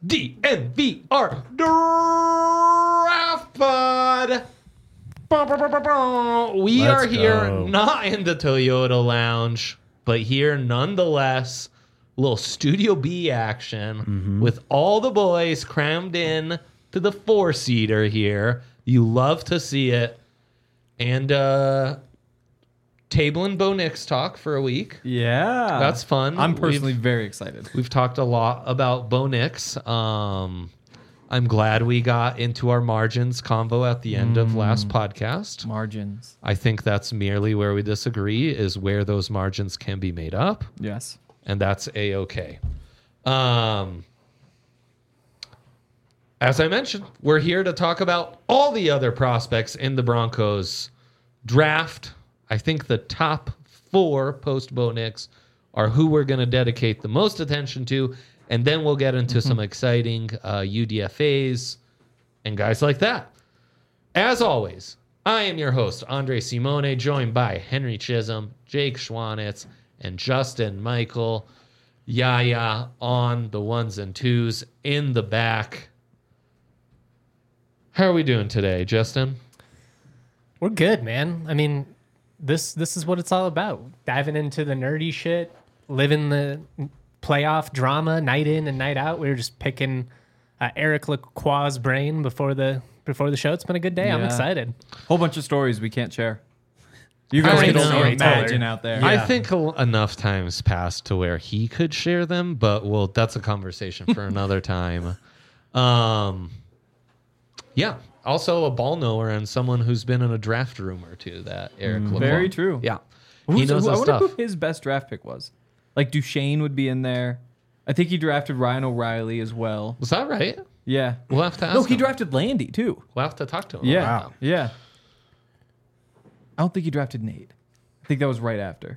DNVR Draft Pod. We are here not in the Toyota Lounge, but here nonetheless. Little Studio B action with all the boys crammed in to the 4-seater here. You love to see it. And Table and Bo Nix talk for a week. Yeah. That's fun. I'm personally very excited. We've talked a lot about Bo Nix. I'm glad we got into our margins convo at the end of last podcast. Margins. I think that's merely where we disagree, is where those margins can be made up. Yes. And that's A-okay. As I mentioned, we're here to talk about all the other prospects in the Broncos draft. I think the top 4 post-Bo Nix are who we're going to dedicate the most attention to, and then we'll get into some exciting UDFAs and guys like that. As always, I am your host, Andre Simone, joined by Henry Chisholm, Jake Schwanitz, and Justin Michael. Yaya on the 1s and 2s in the back. How are we doing today, Justin? We're good, man. I mean, this is what it's all about. Diving into the nerdy shit, living the playoff drama night in and night out. We were just picking Eric Lacroix's brain before the show. It's been a good day. I'm excited. Whole bunch of stories we can't share. You guys I can know. only imagine out there. I think enough times passed to where he could share them, but that's a conversation for another time. Yeah. Also a ball knower and someone who's been in a draft room or two, that Eric Lacroix. Very true. Yeah. He knows I his wonder stuff. who his best draft pick was. Like Duchesne would be in there. I think he drafted Ryan O'Reilly as well. Was that right? Yeah. We'll have to ask No, he him. drafted Landy too. We'll have to talk to him. Yeah. about that. Yeah. I don't think he drafted Nate. I think that was right after.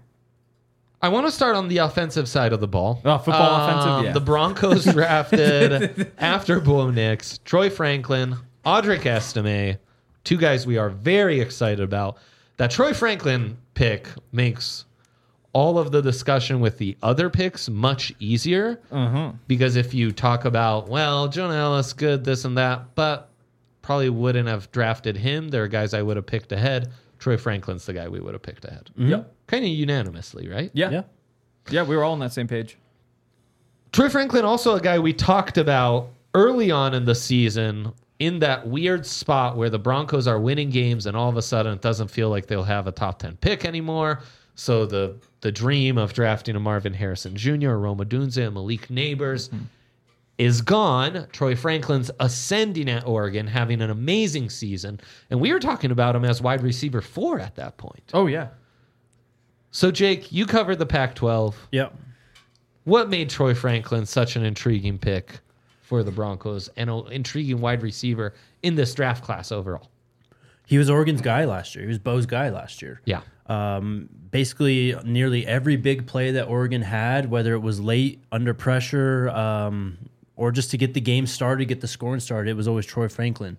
I want to start on the offensive side of the ball. Oh, football offensive, yeah. The Broncos drafted after Bo Nix, Troy Franklin, Audric Estime, 2 guys we are very excited about. That Troy Franklin pick makes all of the discussion with the other picks much easier. Because if you talk about, well, Jonah Ellis, good, this and that, but probably wouldn't have drafted him. There are guys I would have picked ahead. Troy Franklin's the guy we would have picked ahead. Yep. Kind of unanimously, right? Yeah. Yeah, we were all on that same page. Troy Franklin, also a guy we talked about early on in the season in that weird spot where the Broncos are winning games and all of a sudden it doesn't feel like they'll have a top 10 pick anymore. So the dream of drafting a Marvin Harrison Jr., Rome Odunze, and Malik Neighbors is gone. Troy Franklin's ascending at Oregon, having an amazing season. And we were talking about him as wide receiver 4 at that point. Oh, yeah. So, Jake, you covered the Pac-12. Yep. What made Troy Franklin such an intriguing pick for the Broncos and an intriguing wide receiver in this draft class overall? He was Oregon's guy last year. He was Bo's guy last year. Yeah. Basically, nearly every big play that Oregon had, whether it was late, under pressure, or just to get the game started, get the scoring started, it was always Troy Franklin.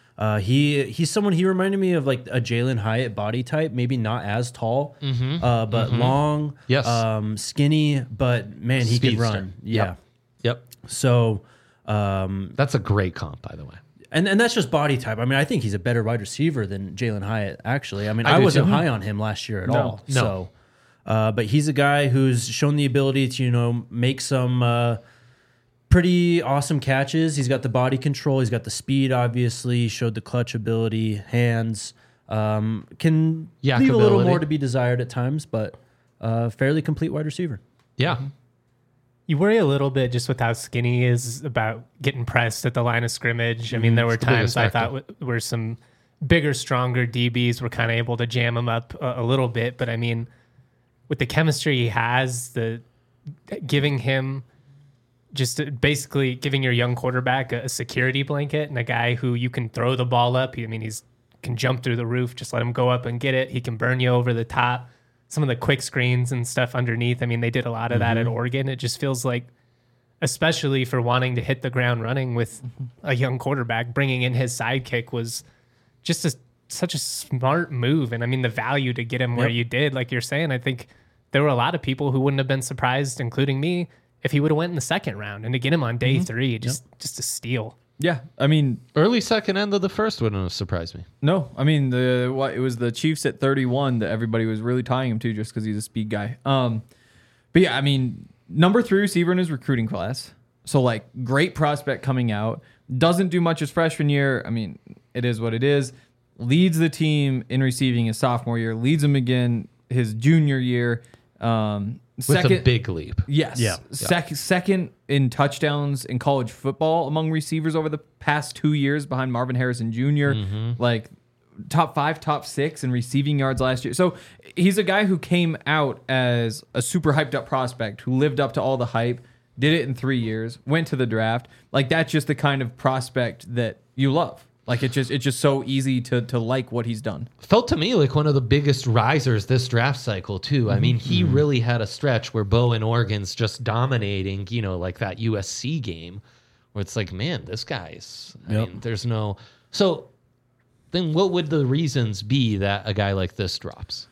He's someone, he reminded me of like a Jalen Hyatt body type, maybe not as tall, but long, Yes. skinny, but man, he could Speedster. run. Yeah. Yep. So, That's a great comp, by the way. and that's just body type. I mean, I think he's a better wide receiver than Jalen Hyatt, actually. I mean, I I do wasn't too. high on him last year at all. No. So, but he's a guy who's shown the ability to, make some pretty awesome catches. He's got the body control. He's got the speed, obviously. Showed the clutch ability, hands. Can leave a little Yakability. more to be desired at times, but fairly complete wide receiver. Yeah. You worry a little bit just with how skinny he is about getting pressed at the line of scrimmage. I mean, there were It's the biggest times I factor. thought where some bigger, stronger DBs were kind of able to jam him up a little bit. But I mean, with the chemistry he has, giving him basically giving your young quarterback a security blanket and a guy who you can throw the ball up. He's can jump through the roof. Just let him go up and get it. He can burn you over the top. Some of the quick screens and stuff underneath. I mean, they did a lot of that at Oregon. It just feels like, especially for wanting to hit the ground running with a young quarterback, bringing in his sidekick was just such a smart move. And I mean, the value to get him where you did, like you're saying, I think there were a lot of people who wouldn't have been surprised, including me, if he would have went in the second round, and to get him on day 3, just a steal. Yeah, I mean, Early second end of the first wouldn't have surprised me. no, I mean it was the Chiefs at 31 that everybody was really tying him to just because he's a speed guy. But yeah, I mean, number 3 receiver in his recruiting class, so like great prospect coming out. Doesn't do much his freshman year. I mean, it is what it is. Leads the team in receiving his sophomore year. Leads him again his junior year. With a big leap. Yes. Yeah. Second in touchdowns in college football among receivers over the past 2 years behind Marvin Harrison Jr. Like top 5, top 6 in receiving yards last year. So he's a guy who came out as a super hyped up prospect who lived up to all the hype, did it in 3 years, went to the draft. Like that's just the kind of prospect that you love. Like it's just so easy to like what he's done. Felt to me like one of the biggest risers this draft cycle too. I mean, he really had a stretch where Bo and Oregon's just dominating, you know, like that USC game where it's like, man, this guy's, I mean, there's no. So then what would the reasons be that a guy like this drops?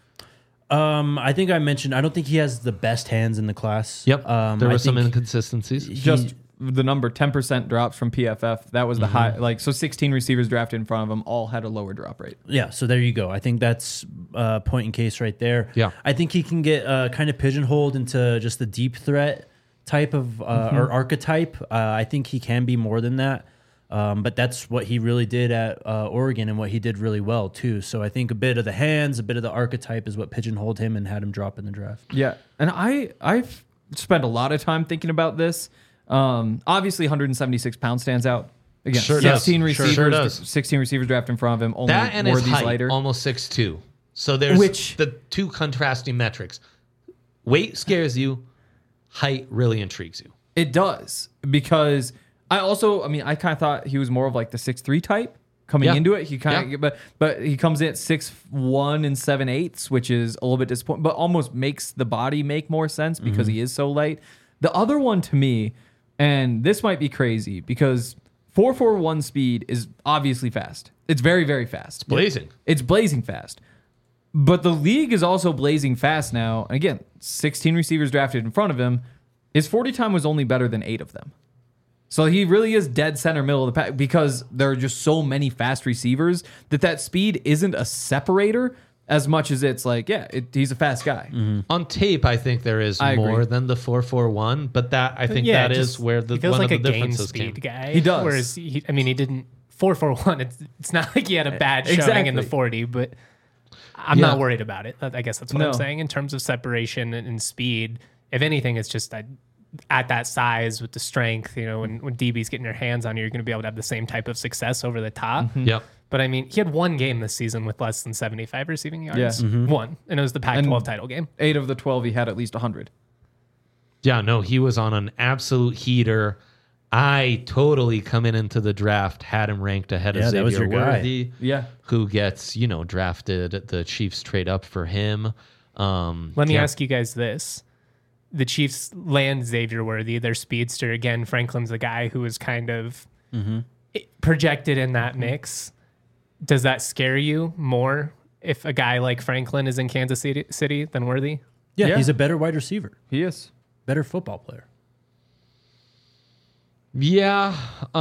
I think I mentioned, I don't think he has the best hands in the class. There I were some think inconsistencies. Just the number 10% drops from PFF. That was the high. Like so, 16 receivers drafted in front of him all had a lower drop rate. Yeah, so there you go. I think that's point in case right there. Yeah. I think he can get kind of pigeonholed into just the deep threat type of or archetype. I think he can be more than that. But that's what he really did at Oregon and what he did really well too. So I think a bit of the hands, a bit of the archetype is what pigeonholed him and had him drop in the draft. Yeah, and I've spent a lot of time thinking about this. Obviously, 176 pounds stands out. Again, Sure does. 16 receivers, Sure does. 16 receivers drafted in front of him. Only That and his Worthy's height, lighter. almost 6'2". So there's Which- the two contrasting metrics. Weight scares you. Height really intrigues you. It does because I kind of thought he was more of like the 6'3" type coming Yeah. into it. He kind of, but he comes in at 6'1" and 7/8", which is a little bit disappointing, but almost makes the body make more sense because he is so light. The other one to me, and this might be crazy because 4.41 speed is obviously fast. It's very, very fast. Blazing. It's blazing fast. But the league is also blazing fast now. And again, 16 receivers drafted in front of him. His 40 time was only better than 8 of them. So he really is dead center middle of the pack because there are just so many fast receivers that speed isn't a separator as much as it's like, he's a fast guy. On tape, I think there is I more agree. than the 4.41, but that I think Yeah, that is just- where the he feels one like of the a game differences speed came. guy. He does. Whereas he didn't 4.41. It's not like he had a bad showing in the Exactly. 40, but I'm Yeah. not worried about it. I guess that's what No. I'm saying in terms of separation and speed. If anything, it's just that at that size with the strength, when DB's getting their hands on you, you're going to be able to have the same type of success over the top. Yep. But I mean, he had one game this season with less than 75 receiving yards. Yeah. One. And it was the Pac-12 title game. 8 of the 12, he had at least 100. Yeah, no, he was on an absolute heater. I totally coming into the draft had him ranked ahead of Yeah, that was Xavier your guy. Worthy, Yeah. who gets, drafted. The Chiefs trade up for him. Let me ask you guys this. The Chiefs land Xavier Worthy, their speedster. Again, Franklin's the guy who was kind of projected in that mix. Does that scare you more if a guy like Franklin is in Kansas City than Worthy? Yeah, Yeah. he's a better wide receiver, He is. better football player. Yeah.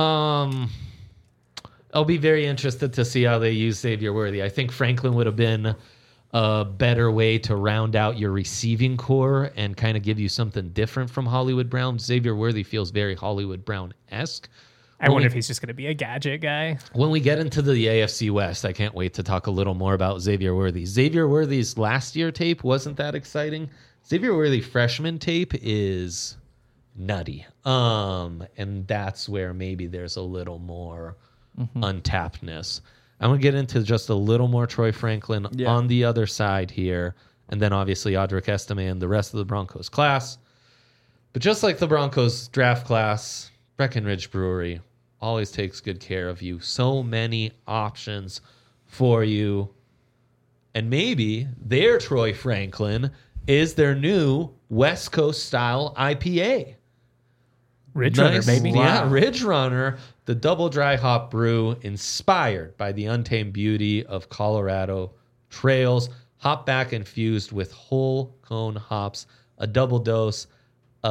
I'll be very interested to see how they use Xavier Worthy. I think Franklin would have been a better way to round out your receiving core and kind of give you something different from Hollywood Brown. Xavier Worthy feels very Hollywood Brown-esque. I wonder if he's just going to be a gadget guy. When we get into the AFC West, I can't wait to talk a little more about Xavier Worthy. Xavier Worthy's last year tape wasn't that exciting. Xavier Worthy freshman tape is nutty. And that's where maybe there's a little more untappedness. I'm going to get into just a little more Troy Franklin on the other side here. And then obviously Audric Estime and the rest of the Broncos class. But just like the Broncos draft class, Breckenridge Brewery always takes good care of you. So many options for you. And maybe their Troy Franklin is their new West Coast style IPA. Ridge Runner, baby. Yeah, Ridge Runner, the double dry hop brew inspired by the untamed beauty of Colorado trails, hop back infused with whole cone hops, a double dose of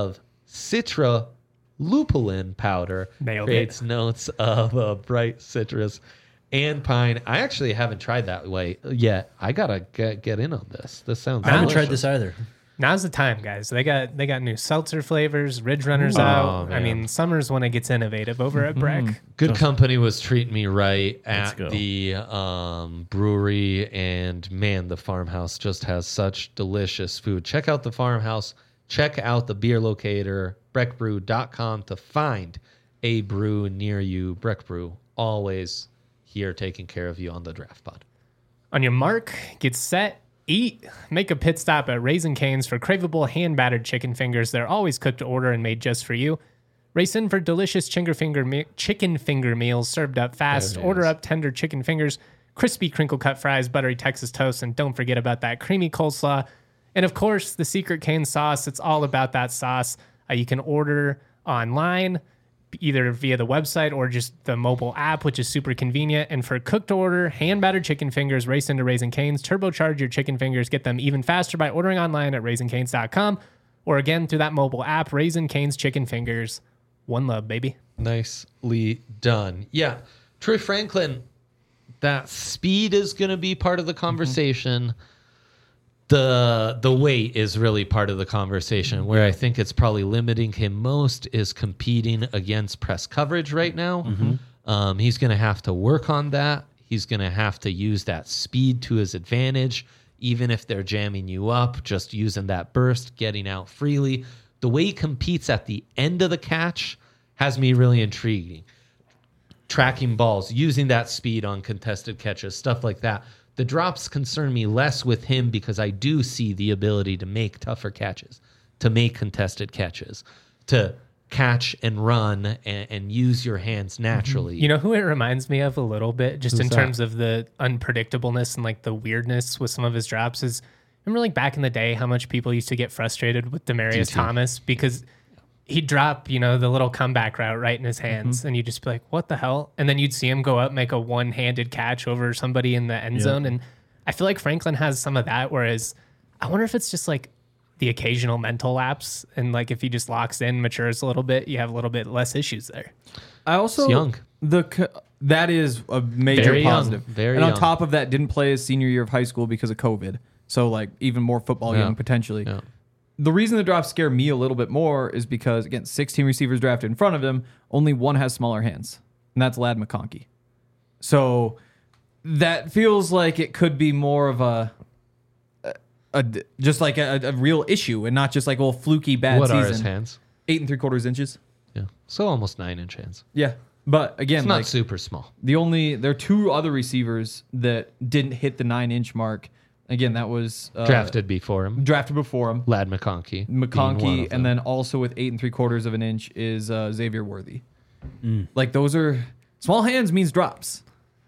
Citra lupulin powder Nailed it. creates notes of bright citrus and pine. I actually haven't tried that way yet. I gotta get in on this. This sounds. I haven't tried delicious. this either. Now's the time, guys. They got new seltzer flavors, Ridge Runners Ooh. out. Oh, I man. mean, summer's when it gets innovative over at Breck. Good company was treating me right Let's at go. the brewery, and man, the farmhouse just has such delicious food. Check out the farmhouse. Check out the beer locator, breckbrew.com, to find a brew near you. Breck Brew, always here taking care of you on the Draft Pod. On your mark, get set, eat. Make a pit stop at Raising Cane's for craveable hand-battered chicken fingers. They're always cooked to order and made just for you. Race in for delicious chicken finger meals served up fast. There it Order is. up tender chicken fingers, crispy crinkle-cut fries, buttery Texas toast, and don't forget about that creamy coleslaw. And of course, the secret cane sauce. It's all about that sauce. You can order online, either via the website or just the mobile app, which is super convenient. And for cooked order, hand-battered chicken fingers, race into Raising Cane's. Turbocharge your chicken fingers. Get them even faster by ordering online at raisingcanes.com or again through that mobile app, Raising Cane's Chicken Fingers. One love, baby. Nicely done. Yeah. Troy Franklin, that speed is going to be part of the conversation. The weight is really part of the conversation. Where I think it's probably limiting him most is competing against press coverage right now. He's going to have to work on that. He's going to have to use that speed to his advantage, even if they're jamming you up, just using that burst, getting out freely. The way he competes at the end of the catch has me really intriguing. Tracking balls, using that speed on contested catches, stuff like that. The drops concern me less with him because I do see the ability to make tougher catches, to make contested catches, to catch and run and use your hands naturally. You know who it reminds me of a little bit, just Who's in that? terms of the unpredictableness and like the weirdness with some of his drops is, remember like back in the day how much people used to get frustrated with Demarius DT. Thomas because he'd drop, the little comeback route right in his hands and you'd just be like, what the hell? And then you'd see him go up, make a one-handed catch over somebody in the end zone. And I feel like Franklin has some of that, whereas I wonder if it's just like the occasional mental lapse and like if he just locks in, matures a little bit, you have a little bit less issues there. I also He's young. That is a major Very young. positive. Very and on young. top of that, didn't play his senior year of high school because of COVID. So like even more football Yeah. young potentially. Yeah. The reason the drops scare me a little bit more is because again, 16 receivers drafted in front of him, only one has smaller hands, and that's Lad McConkey. So that feels like it could be more of a just like a real issue and not just like fluky bad What season. are his hands? 8 3/4 inches. Yeah. So almost 9-inch hands. Yeah, but again, It's not like super small. there are two other receivers that didn't hit the 9-inch mark. Again, that was Drafted before him. drafted before him. Lad McConkey. being one McConkey, of and them. then also with 8 3/4 of an inch is Xavier Worthy. Like those are small hands means drops.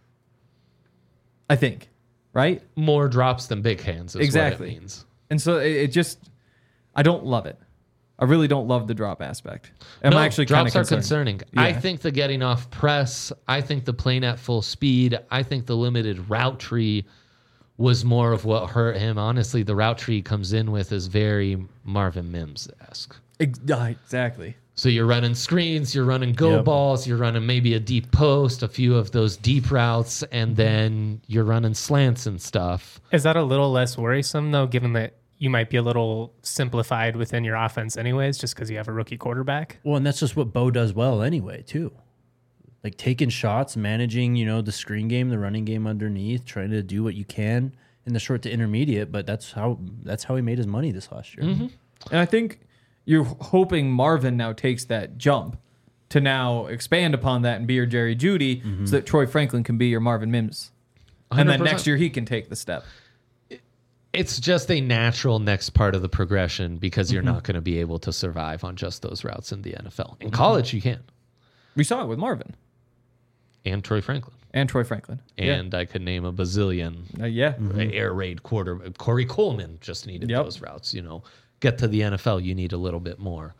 I think, right? More drops than big hands is Exactly. what it means. And so it just, I don't love it. I really don't love the drop aspect. I'm actually kind of drops are concerned. concerning. I Yeah. think the getting off press, I think the playing at full speed, I think the limited route tree was more of what hurt him. Honestly, the route tree he comes in with is very Marvin Mims-esque. Exactly. So you're running screens, you're running go Yep. balls, you're running maybe a deep post, a few of those deep routes, and then you're running slants and stuff. Is that a little less worrisome though, given that you might be a little simplified within your offense anyways, just because you have a rookie quarterback? Well, and that's just what Bo does well anyway, too. Like taking shots, managing, the screen game, the running game underneath, trying to do what you can in the short to intermediate. But that's how he made his money this last year. And I think you're hoping Marvin now takes that jump to now expand upon that and be your Jerry Jeudy so that Troy Franklin can be your Marvin Mims. And then 100%. next year he can take the step. It's just a natural next part of the progression because you're not going to be able to survive on just those routes in the NFL. In college, you can. We saw it with Marvin And Troy Franklin. and Troy Franklin. And I could name a bazillion Yeah. air raid quarter. Corey Coleman just needed Yep. those routes. Get to the NFL, you need a little bit more.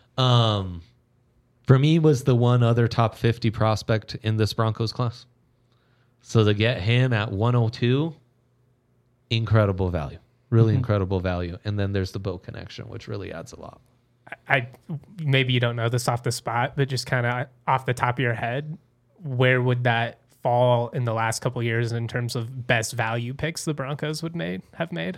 For me, was the one other top 50 prospect in this Broncos class. So to get him at 102, incredible value. Really incredible value. And then there's the Bo connection, which really adds a lot. I maybe you don't know this off the spot, but just kind of off the top of your head, where would that fall in the last couple of years in terms of best value picks the Broncos would have made?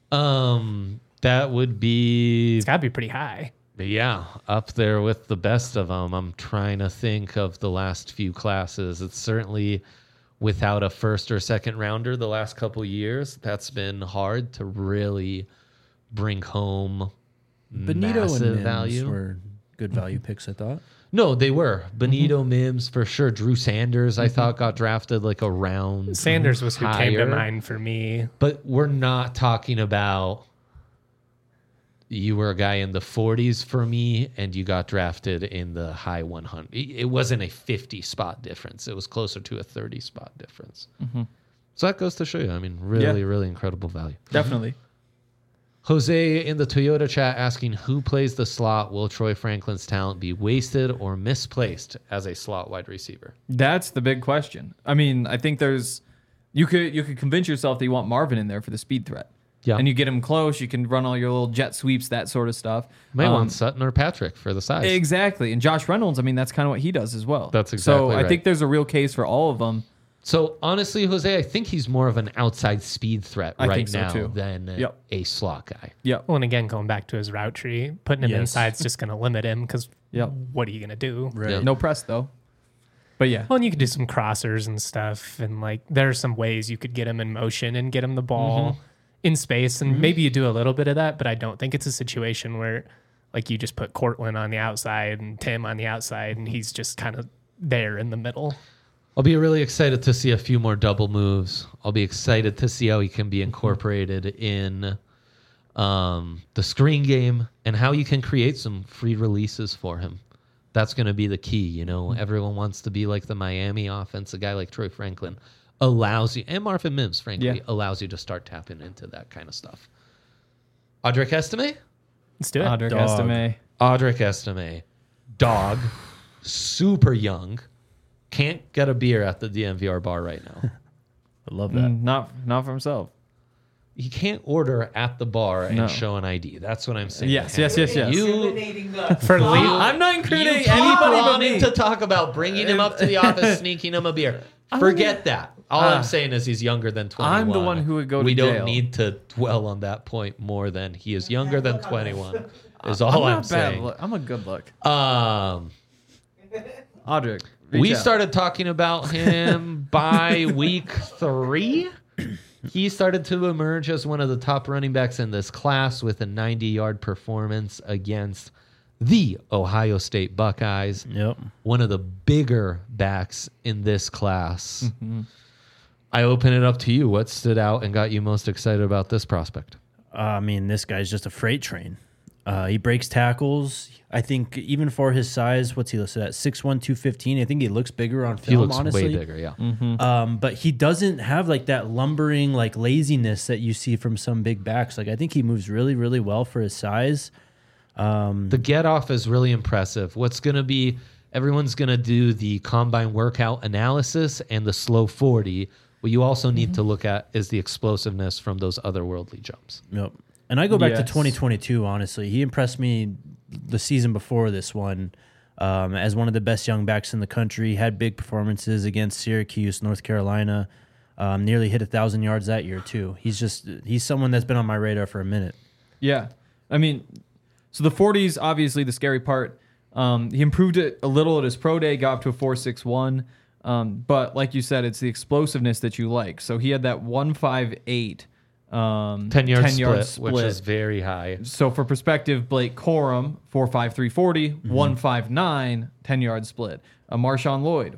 That would be, It's got to be pretty high. yeah, up there with the best of them. I'm trying to think of the last few classes. It's certainly without a first or second rounder the last couple years. That's been hard to really bring home Benito and massive Mims value. were good value picks, I thought. No, they were. Benito, Mims, for sure. Drew Sanders, I thought, got drafted like a round Sanders was who came to higher. mind for me. But we're not talking about you were a guy in the 40s for me and you got drafted in the high 100. It wasn't a 50 spot difference. It was closer to a 30 spot difference. So that goes to show you, I mean, really, really incredible value. Definitely. Jose in the Toyota chat asking, who plays the slot? Will Troy Franklin's talent be wasted or misplaced as a slot wide receiver? That's the big question. I mean, I think you could convince yourself that you want Marvin in there for the speed threat. Yeah. And you get him close, you can run all your little jet sweeps, that sort of stuff. May want Sutton or Patrick for the size. Exactly. And Josh Reynolds, I mean, that's kind of what he does as well. That's exactly So I right. think there's a real case for all of them. So honestly, Jose, I think he's more of an outside speed threat I right think so, now too. than Yep. a slot guy. Yep. Well, and again, going back to his route tree, putting him Yes. inside is just going to limit him because Yep. what are you going to do? Right. Yeah. No press, though. But yeah. Well, and you could do some crossers and stuff. And like, there are some ways you could get him in motion and get him the ball in space. And maybe you do a little bit of that, but I don't think it's a situation where like you just put Cortland on the outside and Tim on the outside and he's just kind of there in the middle. I'll be really excited to see a few more double moves. I'll be excited to see how he can be incorporated in the screen game and how you can create some free releases for him. That's going to be the key. You know, everyone wants to be like the Miami offense. A guy like Troy Franklin allows you, and Marvin Mims, frankly, allows you to start tapping into that kind of stuff. Audric Estime? Let's do it. Audric Dog. Estime. Audric Estime. Dog. Super young. Can't get a beer at the DMVR bar right now. I love that. Not for himself. He can't order at the bar and No. show an ID. That's what I'm saying. Yes. You For Lee, I'm not incriminating keep anybody but wanting me. to talk about bringing him up to the office, sneaking him a beer. Forget that. All I'm saying is he's younger than 21. I'm the one who would go to We jail. don't need to dwell on that point more than he is younger than 21. Is all I'm not bad. saying. Look, I'm a good look. Audric. We reach out. started talking about him by week 3. He started to emerge as one of the top running backs in this class with a 90-yard performance against the Ohio State Buckeyes, Yep. one of the bigger backs in this class. I open it up to you. What stood out and got you most excited about this prospect? I mean, this guy's just a freight train. He breaks tackles. I think even for his size, what's he listed at? 6'1", 215. I think he looks bigger on He film, looks honestly. way bigger, yeah. But he doesn't have like that lumbering like laziness that you see from some big backs. Like I think he moves really, really well for his size. The get off is really impressive. What's going to be, everyone's going to do the combine workout analysis and the slow 40. What you also need to look at is the explosiveness from those otherworldly jumps. Yep. And I go back to Yes. 2022, honestly. He impressed me the season before this one as one of the best young backs in the country. Had big performances against Syracuse, North Carolina. Nearly hit 1,000 yards that year, too. He's someone that's been on my radar for a minute. Yeah. I mean, so the 40s, obviously the scary part. He improved it a little at his pro day, got up to a 4.61. But like you said, it's the explosiveness that you like. So he had that 158 10-yard split, which is very high. So for perspective, Blake Corum, 4.5, 340, 159, 10-yard split. Marshawn Lloyd,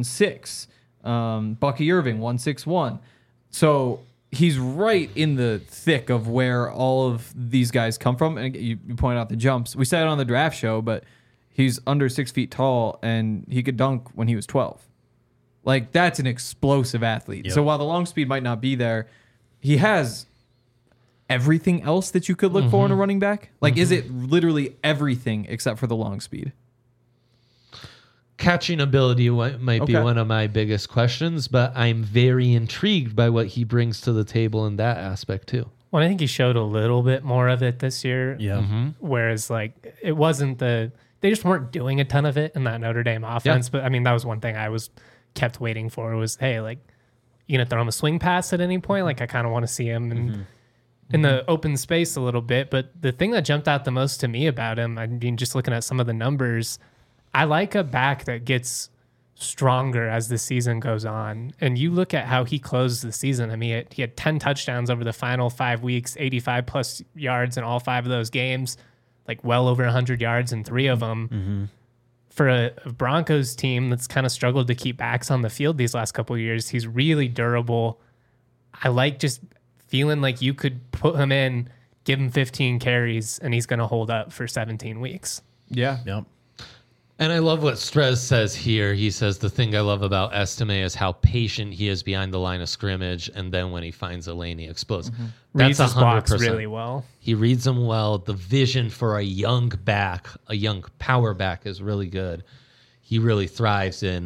1.6. Bucky Irving, 1.61. So he's right in the thick of where all of these guys come from. And you point out the jumps. We said it on the draft show, but he's under 6 feet tall, and he could dunk when he was 12. Like, that's an explosive athlete. Yep. So while the long speed might not be there, he has everything else that you could look for in a running back. Like, is it literally everything except for the long speed? Catching ability might be Okay. one of my biggest questions, but I'm very intrigued by what he brings to the table in that aspect too. Well, I think he showed a little bit more of it this year. Yeah. Whereas, like, it wasn't they just weren't doing a ton of it in that Notre Dame offense. But I mean, that was one thing I was kept waiting for was, hey, like, you gonna throw him a swing pass at any point? Like, I kind of want to see him in the open space a little bit. But the thing that jumped out the most to me about him, I mean, just looking at some of the numbers, I like a back that gets stronger as the season goes on. And you look at how he closed the season. I mean, he had 10 touchdowns over the final 5 weeks, 85 plus yards in all 5 of those games, like well over 100 yards in 3 of them. For a Broncos team that's kind of struggled to keep backs on the field these last couple of years, he's really durable. I like just feeling like you could put him in, give him 15 carries, and he's going to hold up for 17 weeks. Yeah. Yep. And I love what Strez says here. He says the thing I love about Estime is how patient he is behind the line of scrimmage, and then when he finds a lane, he explodes. Reads That's his blocks 100%. really well. He reads them well. The vision for a young back, a young power back, is really good. He really thrives in,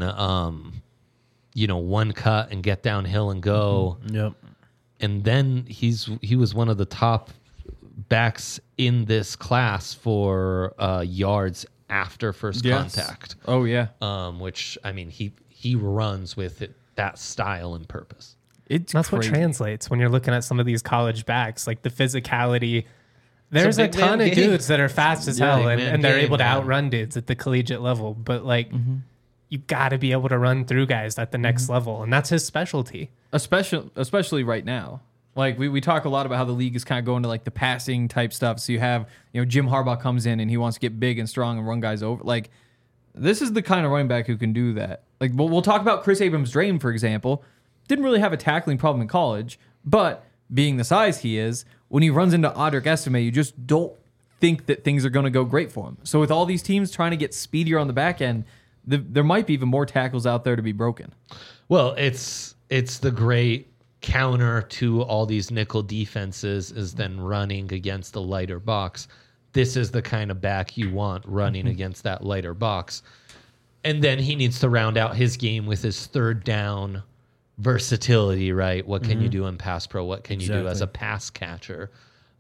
one cut and get downhill and go. Yep. And then he was one of the top backs in this class for yards after first contact. Oh yeah. Which I mean he runs with that style and purpose. It's That's crazy. what translates when you're looking at some of these college backs, like the physicality. There's a big man ton of game. dudes that are fast as Yeah, hell, big man and they're game, able to man. outrun dudes at the collegiate level. But like, you got to be able to run through guys at the next level, and that's his specialty. especially right now. Like we talk a lot about how the league is kind of going to like the passing type stuff. So you have, Jim Harbaugh comes in and he wants to get big and strong and run guys over. Like this is the kind of running back who can do that. Like we'll talk about Chris Abrams-Drain, for example. Didn't really have a tackling problem in college, but being the size he is, when he runs into Audric Estime, you just don't think that things are going to go great for him. So with all these teams trying to get speedier on the back end, there might be even more tackles out there to be broken. Well, it's the great counter to all these nickel defenses is then running against the lighter box. This is the kind of back you want running against that lighter box. And then he needs to round out his game with his third down versatility, right? What can you do in pass pro? What can you do as a pass catcher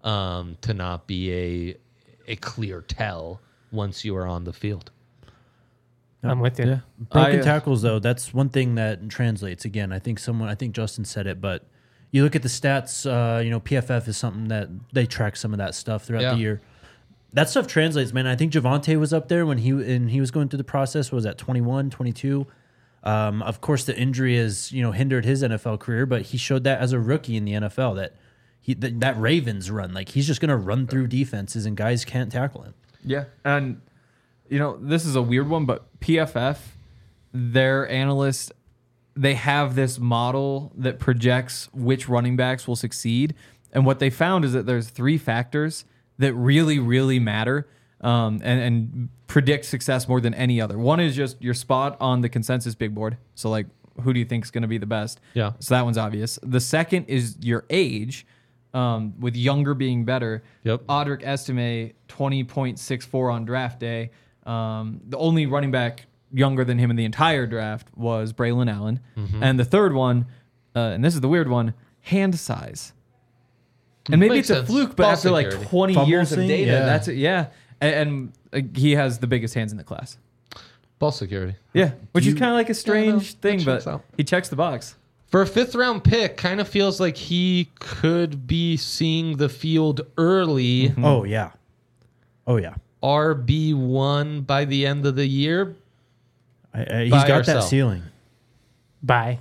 to not be a clear tell once you are on the field? I'm with you. Yeah. Broken tackles, though, that's one thing that translates. Again, I think Justin said it, but you look at the stats. PFF is something that they track some of that stuff throughout the year. That stuff translates, man. I think Javonte was up there when he was going through the process. What was that 21, 22? Of course, the injury has hindered his NFL career, but he showed that as a rookie in the NFL that Ravens run, like he's just going to run through defenses and guys can't tackle him. Yeah. And, this is a weird one, but PFF, their analysts, they have this model that projects which running backs will succeed. And what they found is that there's 3 factors that really, really matter and predict success more than any other. One is just your spot on the consensus big board. So, like, who do you think is going to be the best? Yeah. So that one's obvious. The second is your age, with younger being better. Yep. Audric Estime, 20.64 on draft day. The only running back younger than him in the entire draft was Braylon Allen. And the third one, and this is the weird one, hand size. And maybe Makes it's a sense. fluke, but Ball after like security. 20 Fumble years of thing? data, Yeah. that's it. Yeah. And he has the biggest hands in the class. Ball security. Yeah. Which is kind of like a strange that thing, checks but out. he checks the box. For a 5th round pick, kind of feels like he could be seeing the field early. Oh yeah. RB1 by the end of the year. He's Buy got or that sell? ceiling. Bye.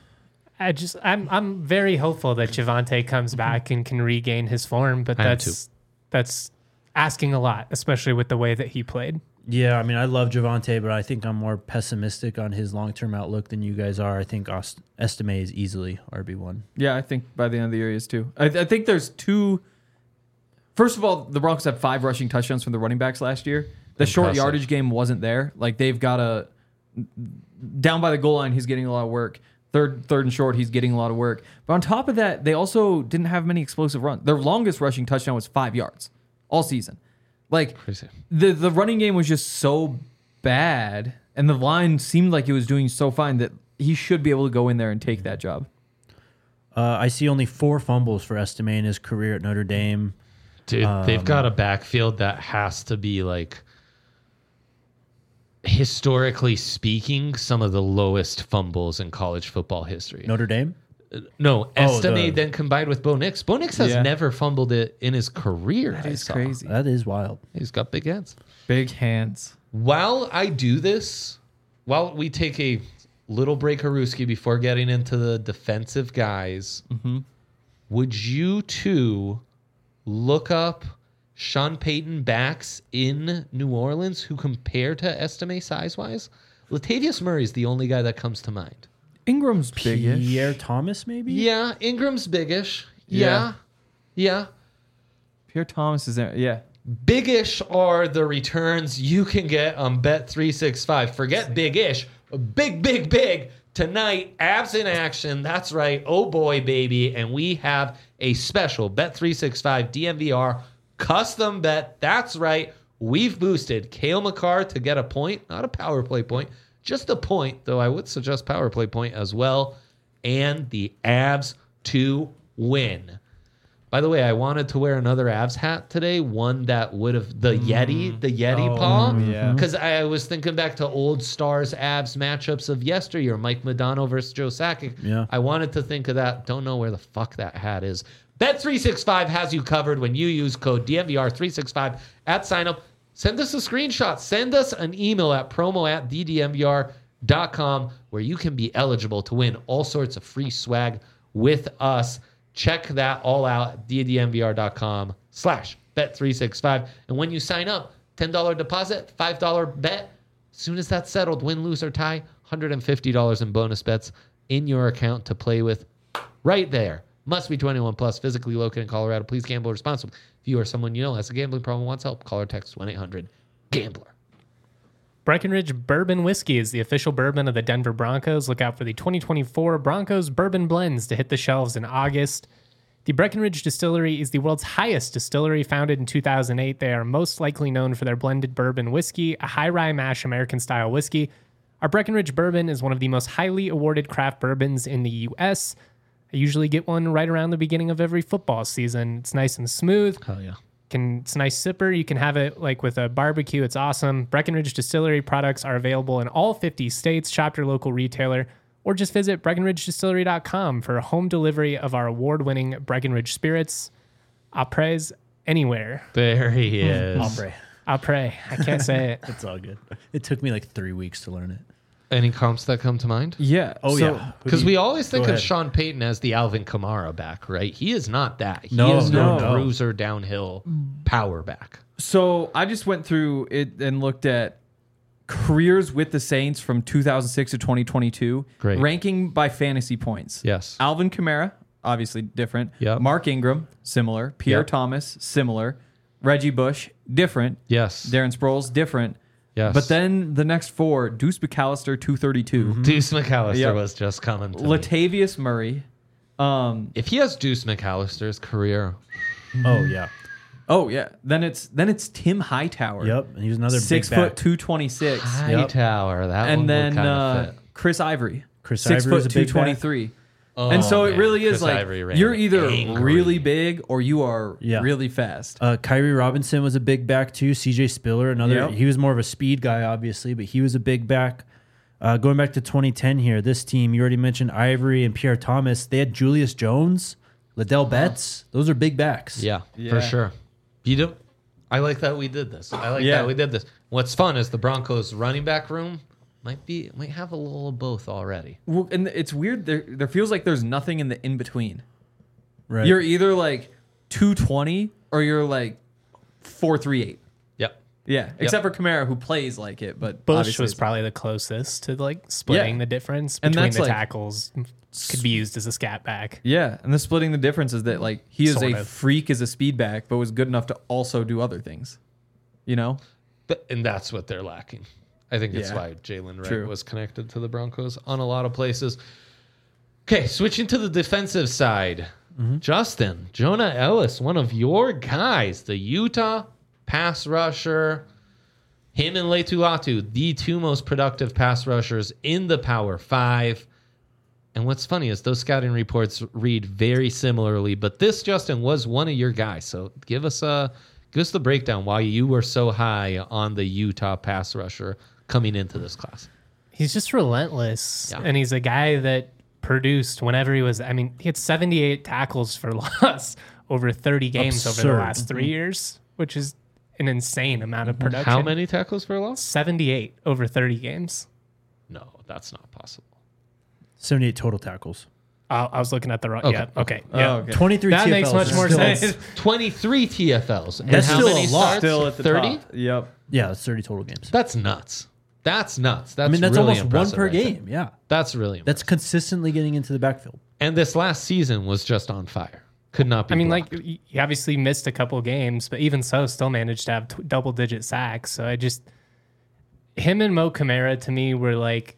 I'm very hopeful that Javonte comes back and can regain his form, but I am that's asking a lot, especially with the way that he played. Yeah, I mean, I love Javonte, but I think I'm more pessimistic on his long-term outlook than you guys are. I think Estime is easily RB1. Yeah, I think by the end of the year he is too. I think there's 2. First of all, the Broncos had 5 rushing touchdowns from the running backs last year. The short Impressive. yardage game wasn't there. Like they've got down by the goal line, he's getting a lot of work. Third and short, he's getting a lot of work. But on top of that, they also didn't have many explosive runs. Their longest rushing touchdown was 5 yards all season. Like Crazy. the running game was just so bad And the line seemed like it was doing so fine that he should be able to go in there and take that job. I see only 4 fumbles for Estime in his career at Notre Dame. Dude, they've got a backfield that has to be like, historically speaking, some of the lowest fumbles in college football history. Notre Dame? No, Estime the- then combined with Bo Nix. Bo Nix has Yeah. never fumbled it in his career. That I is saw. crazy. That is wild. He's got big hands. Big hands. While I do this, while we take a little break, Haruski, before getting into the defensive guys, would you two look up Sean Payton backs in New Orleans who compare to Estime size-wise? Latavius Murray is the only guy that comes to mind. Ingram's big-ish. Pierre Thomas, maybe? Yeah, Ingram's biggish. Yeah. Yeah. Pierre Thomas is there. Yeah. Biggish are the returns you can get on Bet365. Forget big-ish. Big. Tonight, abs in action. That's right. Oh boy, baby. And we have a special Bet365 DMVR custom bet. That's right. We've boosted Cale Makar to get a point, not a power play point, just a point, though I would suggest power play point as well, and the abs to win. By the way, I wanted to wear another Avs hat today, one that would have the Yeti paw. yeah. Because I was thinking back to old Stars Avs matchups of yesteryear, Mike Modano versus Joe Sakic. Yeah. I wanted to think of that. Don't know where the fuck that hat is. Bet365 has you covered when you use code DMVR365 at signup. Send us a screenshot. Send us an email at promo@ddmvr.com where you can be eligible to win all sorts of free swag with us. Check that all out at ddmvr.com/bet365. And when you sign up, $10 deposit, $5 bet. As soon as that's settled, win, lose, or tie, $150 in bonus bets in your account to play with right there. Must be 21 plus, physically located in Colorado. Please gamble responsibly. If you or someone you know has a gambling problem and wants help, call or text 1-800-GAMBLER. Breckenridge Bourbon Whiskey is the official bourbon of the Denver Broncos. Look out for the 2024 Broncos Bourbon Blends to hit the shelves in August. The Breckenridge Distillery is the world's highest distillery, founded in 2008. They are most likely known for their blended bourbon whiskey, a high rye mash American-style whiskey. Our Breckenridge Bourbon is one of the most highly awarded craft bourbons in the U.S. I usually get one right around the beginning of every football season. It's nice and smooth. Hell yeah. It's a nice sipper. You can have it like with a barbecue. It's awesome. Breckenridge Distillery products are available in all 50 states. Shop your local retailer or just visit BreckenridgeDistillery.com for home delivery of our award-winning Breckenridge spirits. Apres anywhere. There he is. Opry. Apres. I can't say it. It's all good. It took me like 3 weeks to learn it. Any comps that come to mind? Yeah. Oh, so, yeah. Because we always think Go of ahead. Sean Payton as the Alvin Kamara back, right? He is not that. He No, is no no. bruiser downhill power back. So I just went through it and looked at careers with the Saints from 2006 to 2022. Great. Ranking by fantasy points. Yes. Alvin Kamara, obviously different. Yep. Mark Ingram, similar. Pierre Yep. Thomas, similar. Reggie Bush, different. Yes. Darren Sproles, different. Yes. But then the next four, Deuce McAllister, 232. Deuce McAllister Yep. was just coming to me. Latavius Murray. If he has Deuce McAllister's career, Oh, yeah. Oh yeah. Then it's Tim Hightower. Yep. And he was another 6 big back. foot 226. Hightower, that one And would then kind of fit. Chris Ivory. Chris 6 Ivory was foot a big back. 223. Oh, And so it man. really is Chris like Ivory ran you're either angry. really big or you are Yeah. really fast. Kyrie Robinson was a big back too. CJ Spiller, another. Yep. He was more of a speed guy, obviously, but he was a big back. Going back to 2010 here, this team, you already mentioned Ivory and Pierre Thomas. They had Julius Jones, Liddell Betts. Those are big backs. Yeah, Yeah. for sure. You don't. I like that we did this. I like Yeah. that we did this. What's fun is the Broncos running back room might have a little of both already. Well, and it's weird. There feels like there's nothing in the in between. Right. You're either like 220 or you're like 438. Yep. Yeah, except for Kamara, who plays like it. But Bush obviously was it's- probably the closest to like splitting Yeah. the difference And between that's the like- tackles. Could be used as a scat back. Yeah, and the splitting the difference is that like he is Sort a of. freak as a speed back, but was good enough to also do other things. You know? And that's what they're lacking. I think it's Yeah. why Jalen Wright True. was connected to the Broncos on a lot of places. Okay, switching to the defensive side. Justin, Jonah Ellis, one of your guys, the Utah pass rusher. Him and Leitu Latu, the two most productive pass rushers in the Power 5. And what's funny is those scouting reports read very similarly, but this, Justin, was one of your guys. So give us the breakdown why you were so high on the Utah pass rusher coming into this class. He's just relentless. Yeah. And he's a guy that produced whenever he was, I mean, he had 78 tackles for loss over 30 games over the Absurd. last 3 years, which is an insane amount of production. How many tackles for a loss? 78 over 30 games. No, that's not possible. 78 total tackles. I was looking at the wrong. Okay. Yeah. Okay. Yeah. okay. 23 That TFLs makes much is more still- sense. 23 TFLs. And That's how still many a lot. starts? Still at the 30? top. Yep. Yeah, it's 30 total games. That's nuts. That's nuts. That's I mean, that's really almost one impressive per right there. game. Yeah. That's really impressive. That's consistently getting into the backfield. And this last season was just on fire. Could not be I mean, blocked. like, he obviously missed a couple games, but even so, still managed to have double-digit sacks. So him and Mo Kamara to me were like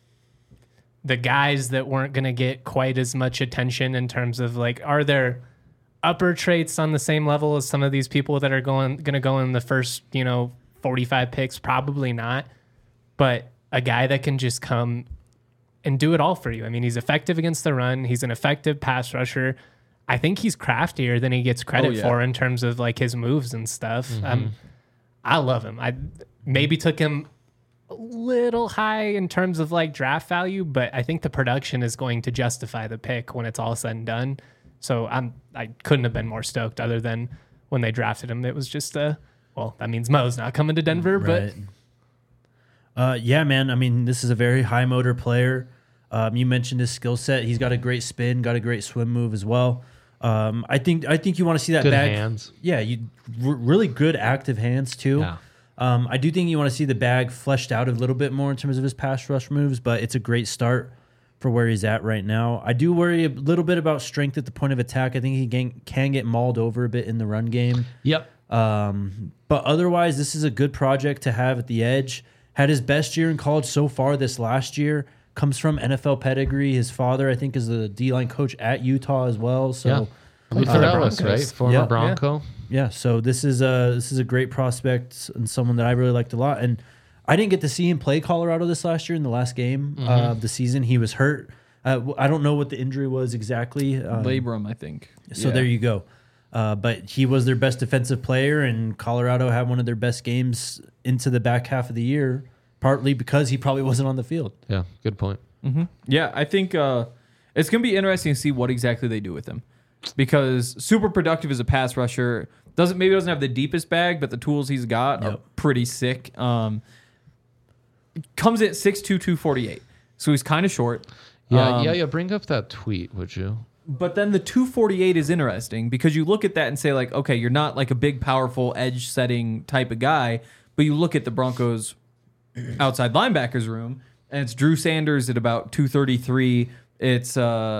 the guys that weren't going to get quite as much attention in terms of like, are there upper traits on the same level as some of these people that are going to go in the first, 45 picks? Probably not. But a guy that can just come and do it all for you. I mean, he's effective against the run. He's an effective pass rusher. I think he's craftier than he gets credit for in terms of like his moves and stuff. I love him. I maybe took him a little high in terms of like draft value, but I think the production is going to justify the pick when it's all said and done. So I couldn't have been more stoked other than when they drafted him. It was just well, that means Mo's not coming to Denver, but Yeah, man. I mean, this is a very high motor player. You mentioned his skill set. He's got a great spin, got a great swim move as well. I think you want to see that Good bag. hands. Yeah, really good active hands too. Yeah. I do think you want to see the bag fleshed out a little bit more in terms of his pass rush moves, but it's a great start for where he's at right now. I do worry a little bit about strength at the point of attack. I think he can get mauled over a bit in the run game. Yep. But otherwise, this is a good project to have at the edge. Had his best year in college so far this last year. Comes from NFL pedigree. His father, I think, is the D-line coach at Utah as well. So, Yeah. Luther Ellis, Broncos. right? Former Yeah. Bronco. yeah. So this is a great prospect and someone that I really liked a lot. And I didn't get to see him play Colorado this last year in the last game of the season. He was hurt. I don't know what the injury was exactly. Labrum, I think. So there you go. But he was their best defensive player, and Colorado had one of their best games into the back half of the year, partly because he probably wasn't on the field. Yeah, good point. Yeah, I think it's going to be interesting to see what exactly they do with him, because super productive as a pass rusher. Doesn't have the deepest bag, but the tools he's got are pretty sick. Comes at 6'2", 248, so he's kind of short. Yeah, bring up that tweet, would you? But then the 248 is interesting because you look at that and say, like, okay, you're not like a big, powerful edge setting type of guy, but you look at the Broncos outside linebackers room, and it's Drew Sanders at about 233. It's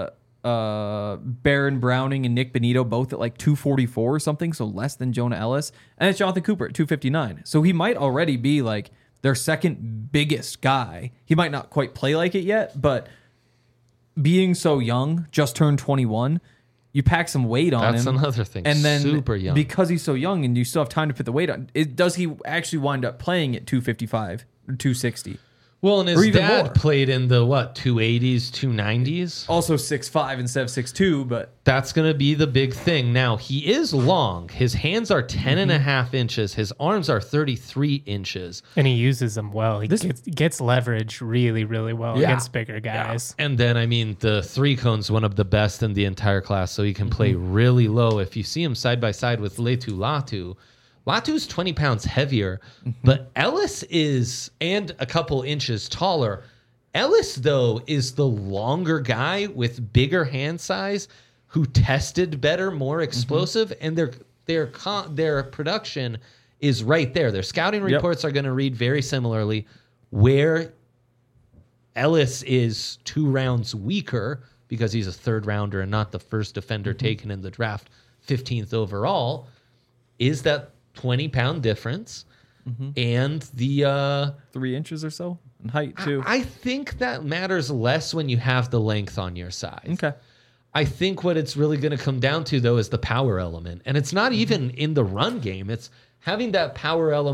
Baron Browning and Nick Benito both at like 244 or something, so less than Jonah Ellis. And it's Jonathan Cooper at 259. So he might already be like their second biggest guy. He might not quite play like it yet, but being so young, just turned 21, you pack some weight on him. That's another thing. And then Super young. because he's so young and you still have time to put the weight on, does he actually wind up playing at 255 or 260? Well, and Or his even dad more. played in the 280s, 290s. Also 6'5" instead of 6'2", but That's going to be the big thing. Now, he is long. His hands are 10 and a half inches. His arms are 33 inches. and he uses them well. He gets leverage really, really well against bigger guys. And then, I mean, the three cone's one of the best in the entire class, so he can play really low. If you see him side by side with Leitu Latu, Latu's 20 pounds heavier, but Ellis is, and a couple inches taller. Ellis, though, is the longer guy with bigger hand size who tested better, more explosive, and their production is right there. Their scouting reports are going to read very similarly, where Ellis is 2 rounds weaker because he's a third rounder and not the first defender taken in the draft, 15th overall, is that 20-pound difference. And the 3 inches or so in height too. I think that matters less when you have the length on your side. Okay. I think what it's really going to come down to, though, is the power element. And it's not even in the run game. It's having that power element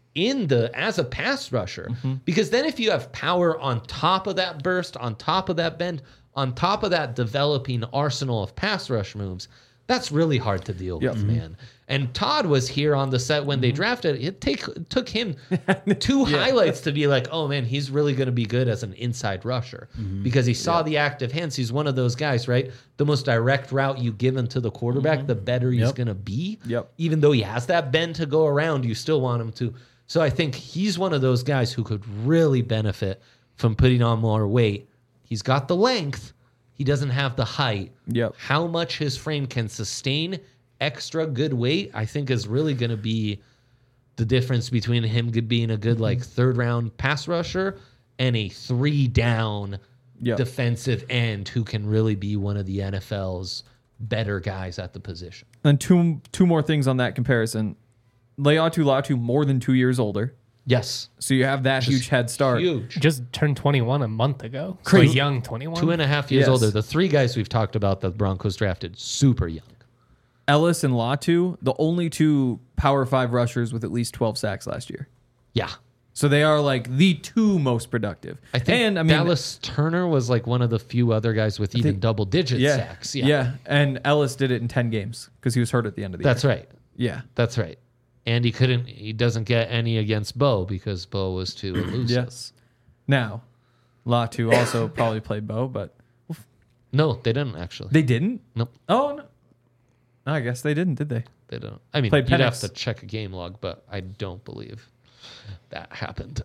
as a pass rusher. Because then if you have power on top of that burst, on top of that bend, on top of that developing arsenal of pass rush moves, that's really hard to deal with, man. And Todd was here on the set when they drafted. It took him two highlights to be like, oh man, he's really going to be good as an inside rusher because he saw the active hands. He's one of those guys, right? The most direct route you give him to the quarterback, the better he's going to be. Even though he has that bend to go around, you still want him to. So I think he's one of those guys who could really benefit from putting on more weight. He's got the length. He doesn't have the height. How much his frame can sustain extra good weight, I think, is really going to be the difference between him being a good like third round pass rusher and a 3-down defensive end who can really be one of the NFL's better guys at the position. And two more things on that comparison. Laiatu Latu more than 2 years older. Yes. So you have that huge head start. Huge. Just turned 21 a month ago. Crazy. So young 21. 2.5 years older. The three guys we've talked about that the Broncos drafted, super young. Ellis and Latu, the only two Power 5 rushers with at least 12 sacks last year. Yeah. So they are like the two most productive. I think Dallas Turner was like one of the few other guys with even double-digit sacks. Yeah, and Ellis did it in 10 games because he was hurt at the end of the year. That's right. Yeah. That's right. And he doesn't get any against Bo because Bo was too elusive. Yes. Now, Latu also probably played Bo, but No, they didn't actually. they didn't? Nope. Oh, no. I guess they didn't, did they? They don't. I mean, Played you'd Penix. have to check a game log, but I don't believe that happened.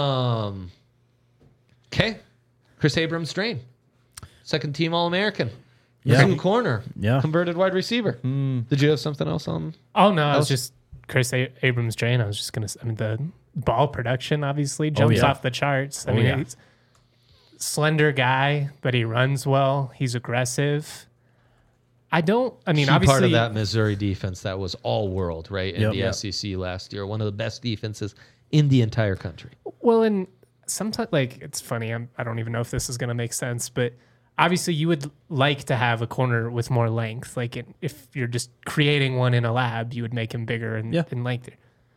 Okay. Chris Abrams Drain. Second team All-American. Yeah. True corner. Yeah. Converted wide receiver. Did you have something else on? Oh, no. I was just Chris Abrams Drain. I was just going to, I mean, the ball production obviously jumps off the charts. I mean, he's a slender guy, but he runs well. He's aggressive. Obviously, part of that Missouri defense that was all world, right? In Yep. the SEC last year. One of the best defenses in the entire country. Well, and sometimes, like, it's funny. I don't even know if this is going to make sense, but obviously you would like to have a corner with more length. Like, if you're just creating one in a lab, you would make him bigger and lengthier.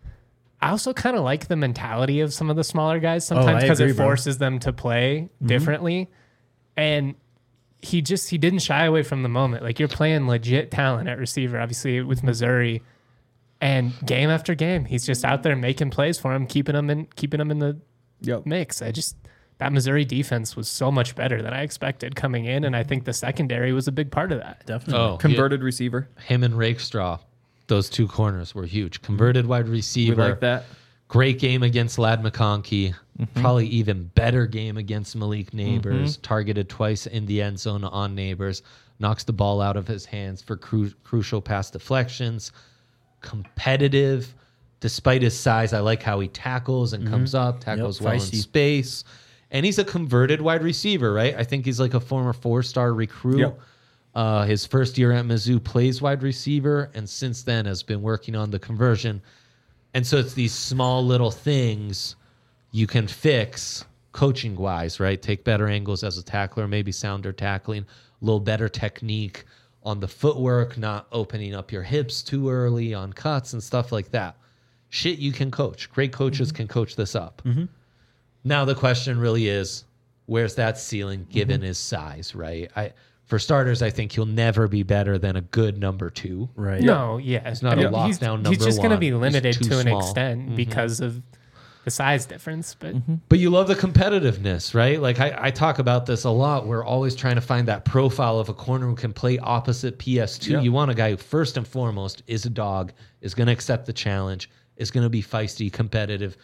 I also kind of like the mentality of some of the smaller guys sometimes because it forces them to play differently. And he didn't shy away from the moment. Like, you're playing legit talent at receiver, obviously, with Missouri. And game after game, he's just out there making plays for him, keeping him in the mix. That Missouri defense was so much better than I expected coming in, and I think the secondary was a big part of that. Definitely. Converted receiver. Him and Rakestraw, those two corners were huge. Converted wide receiver. We like that. Great game against Lad McConkey. Probably even better game against Malik Neighbors. Targeted twice in the end zone on Neighbors. Knocks the ball out of his hands for crucial pass deflections. Competitive. Despite his size, I like how he tackles and comes up, tackles well in space. And he's a converted wide receiver, right? I think he's like a former 4-star recruit. His first year at Mizzou plays wide receiver, and since then has been working on the conversion. And so it's these small little things you can fix coaching-wise, right? Take better angles as a tackler, maybe sounder tackling, a little better technique on the footwork, not opening up your hips too early on cuts and stuff like that. Shit you can coach. Great coaches can coach this up. Now the question really is, where's that ceiling given his size, right? For starters, I think he'll never be better than a good number 2. Right. No, yeah. He's not a lockdown number 1. He's just going to be limited He's too to an small. extent because of the size difference. But you love the competitiveness, right? Like I talk about this a lot. We're always trying to find that profile of a corner who can play opposite PS2. Yeah. You want a guy who first and foremost is a dog, is going to accept the challenge, is going to be feisty, competitive,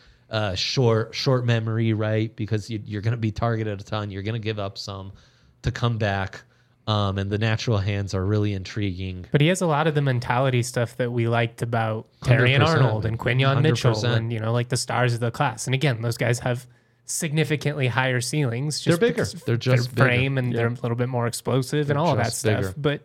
short memory, right? Because you're going to be targeted a ton. You're going to give up some to come back. And the natural hands are really intriguing. But he has a lot of the mentality stuff that we liked about Terry and 100%. Arnold and Quinyon Mitchell 100%. and, like the stars of the class. And again, those guys have significantly higher ceilings. They're bigger. because They're just their frame bigger. and they're a little bit more explosive and all of that just stuff. bigger. But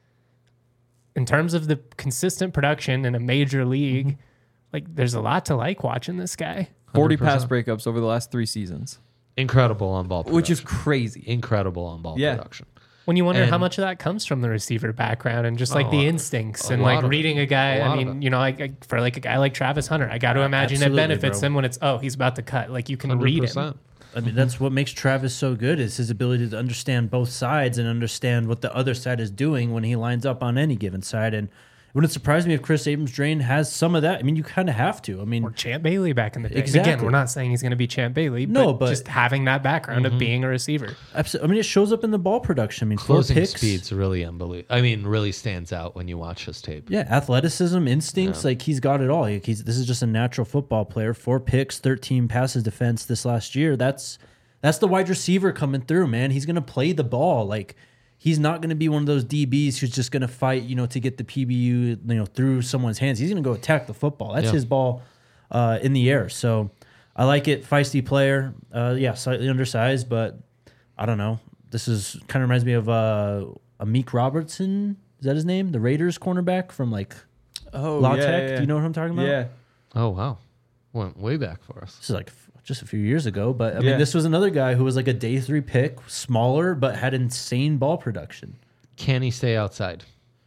in terms of the consistent production in a major league, like there's a lot to like watching this guy. 40 100%. pass breakups over the last 3 seasons, Incredible on ball production. which is crazy. Incredible on ball Yeah. production. When you wonder how And- much of that comes from the receiver background and just like the instincts a and lot like of reading it. a guy. A lot I of mean, it. you know, like for like a guy like Travis Hunter, I got to imagine Absolutely, it benefits bro. him when it's, oh, he's about to cut. Like you can read him. 100%. I mean, that's what makes Travis so good is his ability to understand both sides and understand what the other side is doing when he lines up on any given side. And it wouldn't surprise me if Chris Abrams-Drain has some of that. I mean, you kind of have to. I mean, Or Champ Bailey back in the day. Exactly. Again, we're not saying he's going to be Champ Bailey, No, but but- just having that background of being a receiver. I mean, it shows up in the ball production. I mean, 4 Closing picks. speeds really unbelievable. I mean, really stands out when you watch his tape. Yeah, athleticism, instincts, like he's got it all. Like this is just a natural football player. 4 picks, 13 passes defense this last year. That's the wide receiver coming through, man. He's gonna play the ball. Like he's not gonna be one of those DBs who's just gonna fight, to get the PBU, through someone's hands. He's gonna go attack the football. That's Yeah. his ball in the air. So I like it. Feisty player. Yeah, slightly undersized, but I don't know. This is kind of reminds me of Amik Robertson. Is that his name? The Raiders cornerback from like La Tech. Do you know what I'm talking about? Yeah. Oh, wow. Went way back for us. This is like just a few years ago, but I Yeah. mean, this was another guy who was like a day 3 pick, smaller, but had insane ball production. Can he stay outside?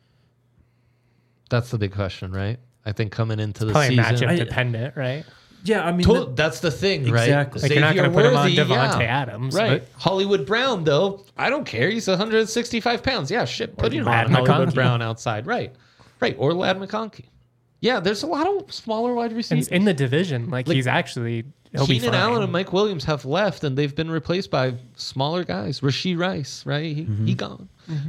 That's the big question, right? I think coming into the Probably season. matchup dependent, right? Yeah, I mean, That's the thing, right? Exactly. Like, you're not Xavier gonna put him on Worthy, Devontae Adams, Right. Hollywood Brown, though, I don't care. He's 165 pounds. Yeah, shit. Put him Lad on Hollywood McConkey. Brown outside. Right. Right. Or Lad McConkey. Yeah, there's a lot of smaller wide And receivers. in the division, like he's actually, he'll be Keenan fine. Allen and Mike Williams have left, and they've been replaced by smaller guys. Rasheed Rice, right? He gone.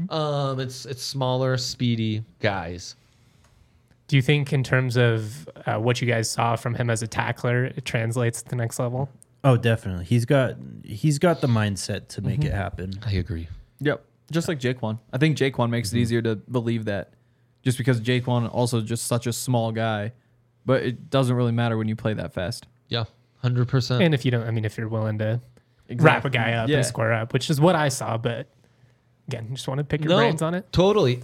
It's smaller, speedy guys. Do you think, in terms of what you guys saw from him as a tackler, it translates to the next level? oh, definitely. He's got the mindset to make it happen. I agree. Yep. Just like Jaquan. I think Jaquan makes it easier to believe that just because Jaquan also just such a small guy, but it doesn't really matter when you play that fast. Yeah, 100%. And if you don't, I mean, if you're willing to wrap a guy up Yeah. and square up, which is what I saw, but again, just want to pick your brains on it. Totally.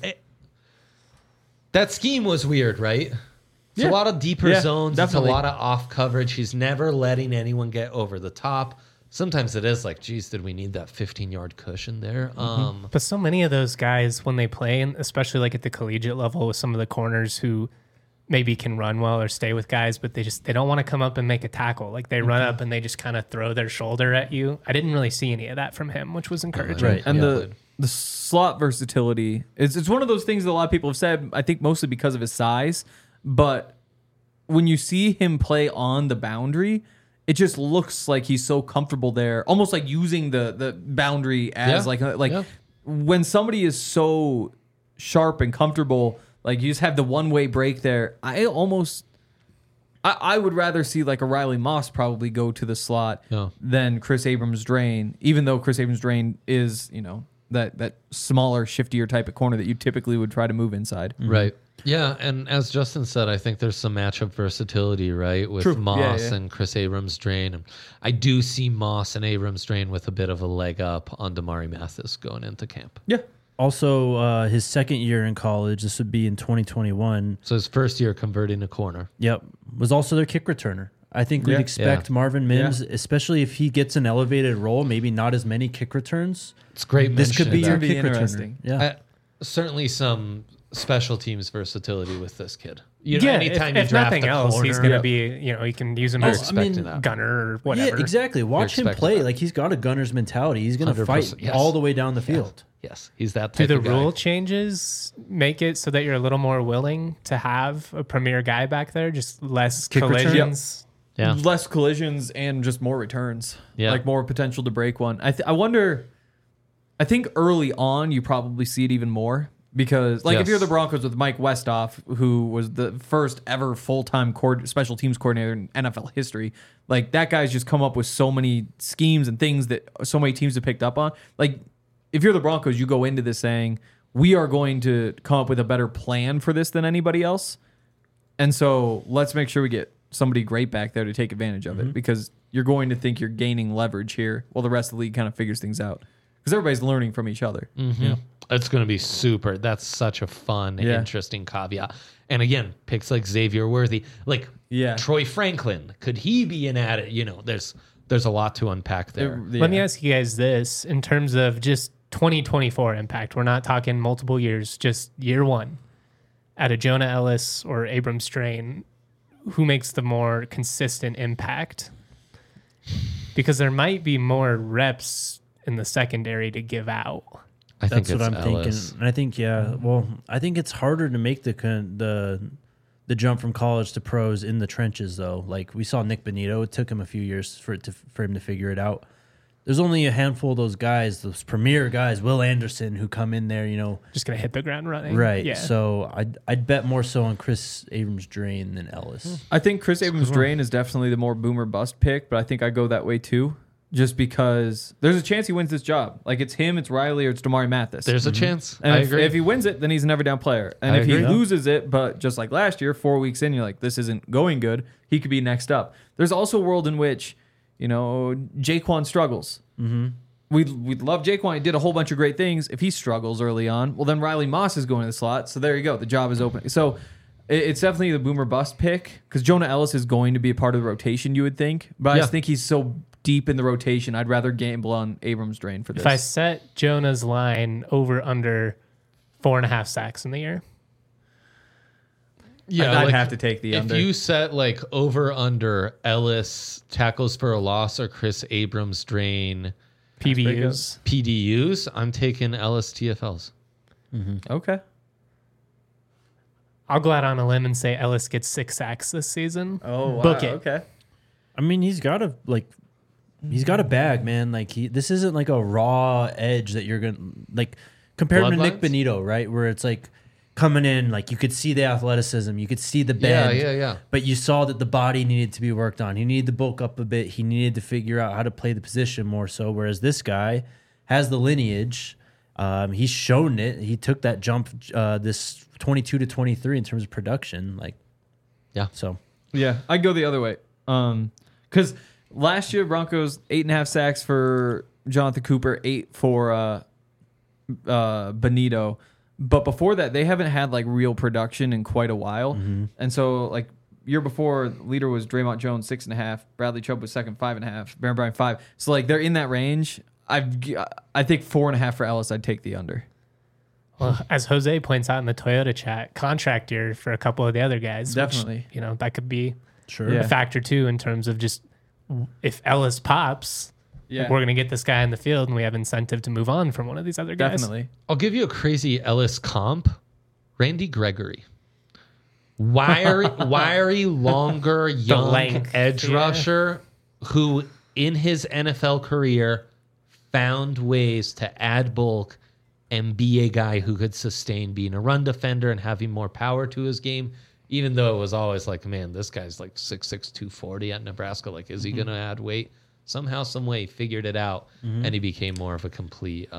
That scheme was weird, right? It's a lot of deeper Yeah, zones. definitely. It's a lot of off coverage. He's never letting anyone get over the top. Sometimes it is like, geez, did we need that 15-yard cushion there? But so many of those guys, when they play, and especially like at the collegiate level with some of the corners who maybe can run well or stay with guys, but they don't want to come up and make a tackle. Like they run up and they just kind of throw their shoulder at you. I didn't really see any of that from him, which was encouraging. Right. And Yeah. the slot versatility, it's one of those things that a lot of people have said, I think mostly because of his size, but when you see him play on the boundary, it just looks like he's so comfortable there, almost like using the boundary as Yeah. when somebody is so sharp and comfortable, like you just have the one-way break there. I would rather see like a Riley Moss probably go to the slot Yeah. than Chris Abrams-Drain, even though Chris Abrams-Drain is, that smaller, shiftier type of corner that you typically would try to move inside. Right. Yeah, and as Justin said, I think there's some matchup versatility, right, with True. Moss Yeah. and Chris Abrams-Drain. And I do see Moss and Abrams-Drain with a bit of a leg up on Damari Mathis going into camp. Yeah. Also, his second year in college, this would be in 2021. So his first year converting a corner. Yep, was also their kick returner. I think we'd Yeah. expect Yeah. Marvin Mims, especially if he gets an elevated role, maybe not as many kick returns. It's great. This could be mentioning your That'd be kick returner. interesting. Yeah. certainly some special teams versatility with this kid. You know, Yeah, anytime you if draft nothing a else, corner, he's going to be, you can use him you're as expecting that. gunner or whatever. Yeah, exactly. Watch him expecting play. that. Like he's got a gunner's mentality. He's going to 100%, fight yes. all the way down the field. Yes, he's that Do type the of guy. rule changes make it so that you're a little more willing to have a premier guy back there, just less Kick return? collisions? Yeah. Less collisions and just more returns. Yeah. Like more potential to break one. I wonder, I think early on you probably see it even more because like if Yes. you're the Broncos with Mike Westhoff, who was the first ever full-time special teams coordinator in NFL history, like that guy's just come up with so many schemes and things that so many teams have picked up on. Like if you're the Broncos, you go into this saying, we are going to come up with a better plan for this than anybody else. And so let's make sure we get somebody great back there to take advantage of it because you're going to think you're gaining leverage here while the rest of the league kind of figures things out because everybody's learning from each other. It's going to be super. That's such a fun, Yeah. interesting caveat. And again, picks like Xavier Worthy, like Yeah. Troy Franklin, could he be an added? There's a lot to unpack there. Yeah. Let me ask you guys this in terms of just 2024 impact, we're not talking multiple years, just year one, out of Jonah Ellis or Abram Strain, who makes the more consistent impact? Because there might be more reps in the secondary to give out. I think That's what it's I'm Ellis. thinking. And I think, yeah, well, I think it's harder to make the jump from college to pros in the trenches, though. Like we saw Nick Bonito, it took him a few years for him to figure it out. There's only a handful of those guys, those premier guys, Will Anderson, who come in there, Just going to hit the ground running. right. Yeah. So I'd bet more so on Chris Abrams-Drain than Ellis. I think Chris Abrams-Drain is definitely the more boomer bust pick, but I think I go that way too. Just because there's a chance he wins this job. Like it's him, it's Riley, or it's Damari Mathis. There's a chance. And I if, agree. if he wins it, then he's a never down player. And I if he agree. loses it, but just like last year, 4 weeks in, you're like, this isn't going good, he could be next up. There's also a world in which, Jaquan struggles. Mm-hmm. We'd love Jaquan. He did a whole bunch of great things. If he struggles early on, well, then Riley Moss is going to the slot. So there you go. The job is open. So it's definitely the boomer bust pick because Jonah Ellis is going to be a part of the rotation, you would think. But I Yeah. just think he's so deep in the rotation, I'd rather gamble on Abrams-Drain for this. If I set Jonah's line over under 4.5 sacks in the year, I'd have to take the if under. you set like over under Ellis tackles for a loss or Chris Abrams Drain PBUs. PDUs, I'm taking Ellis TFLs. Okay. I'll go out on a limb and say Ellis gets 6 sacks this season. Oh, wow. Book it. Okay. I mean, he's got a bag, man. Like this isn't like a raw edge that you're gonna like compare him to Nick Bloodlines? Bonito, right? Where it's like coming in, like you could see the athleticism, you could see the bend, Yeah. but you saw that the body needed to be worked on. He needed to bulk up a bit. He needed to figure out how to play the position more so. Whereas this guy has the lineage. He's shown it. He took that jump this 22 to 23 in terms of production. Like, Yeah. So Yeah, I'd go the other way. Because last year, Broncos, 8.5 sacks for Jonathan Cooper, 8 for Bonito. But before that, they haven't had like real production in quite a while. And so, like, year before, leader was Draymond Jones, 6.5. Bradley Chubb was second, 5.5. Baron Bryant, 5. So, like, they're in that range. I think 4.5 for Ellis. I'd take the under. Well, as Jose points out in the Toyota chat, contract year for a couple of the other guys. Definitely. Which, that could be sure. Yeah. a factor too in terms of just if Ellis pops, Yeah, we're going to get this guy in the field and we have incentive to move on from one of these other guys. definitely. I'll give you a crazy Ellis comp. Randy Gregory. Wiry, longer, young length, edge yeah. rusher who in his NFL career found ways to add bulk and be a guy who could sustain being a run defender and having more power to his game, even though it was always like, man, this guy's like 6'6", 240 at Nebraska. Like, is he going to add weight? Somehow, some way, he figured it out, and he became more of a complete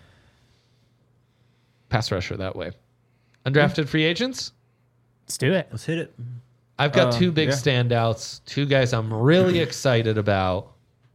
pass rusher that way. Undrafted free agents? Let's do it. Let's hit it. I've got two big yeah. standouts, two guys I'm really excited about.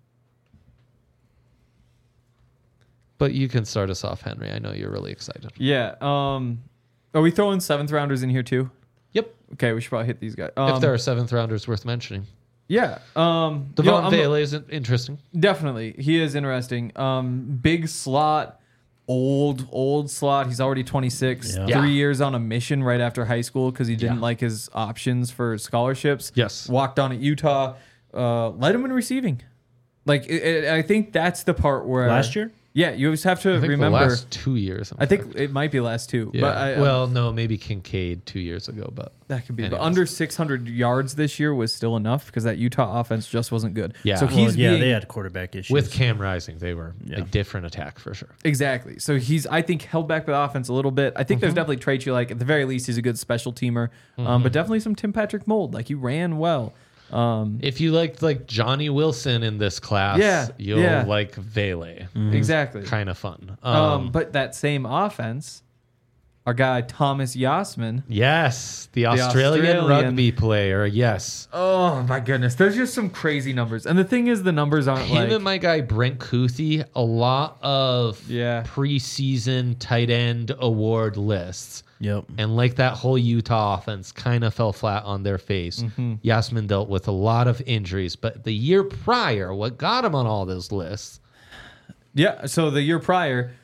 But you can start us off, Henry. I know you're really excited. Yeah. Are we throwing 7th rounders in here too? Yep. Okay, we should probably hit these guys. If there are 7th rounders worth mentioning. Yeah. Devon Vele is interesting. Definitely. He is interesting. Big slot, old slot. He's already 26. Yeah. 3 Yeah. years on a mission right after high school because he didn't Yeah. like his options for scholarships. Yes. Walked on at Utah. Led him in receiving. Like, I think that's the part where... Last year? Yeah, you always have to I think remember... the last 2 years. I think it might be last two. Yeah. But well, no, maybe Kincaid 2 years ago, but that could be. But anyways. under 600 yards this year was still enough because that Utah offense just wasn't good. Yeah. So Well, he's being, they had quarterback issues. with Cam Rising, they were Yeah. a different attack for sure. Exactly. So he's, I think, held back by the offense a little bit. I think there's definitely traits you like. At the very least, he's a good special teamer. But definitely some Tim Patrick mold. Like, he ran well. If you liked like Johnny Wilson in this class, Yeah, you'll yeah. like Vele. Exactly. Kind of fun. But that same offense, our guy Thomas Yasman. Yes, the Australian Australian- rugby player. Yes. Oh my goodness, there's just some crazy numbers. And the thing is, the numbers aren't Him like... and my guy Brent Kuthi, a lot of Yeah. preseason tight end award lists. Yep. And like that whole Utah offense kind of fell flat on their face. Yasmin dealt with a lot of injuries, but the year prior, what got him on all those lists? Yeah, so the year prior,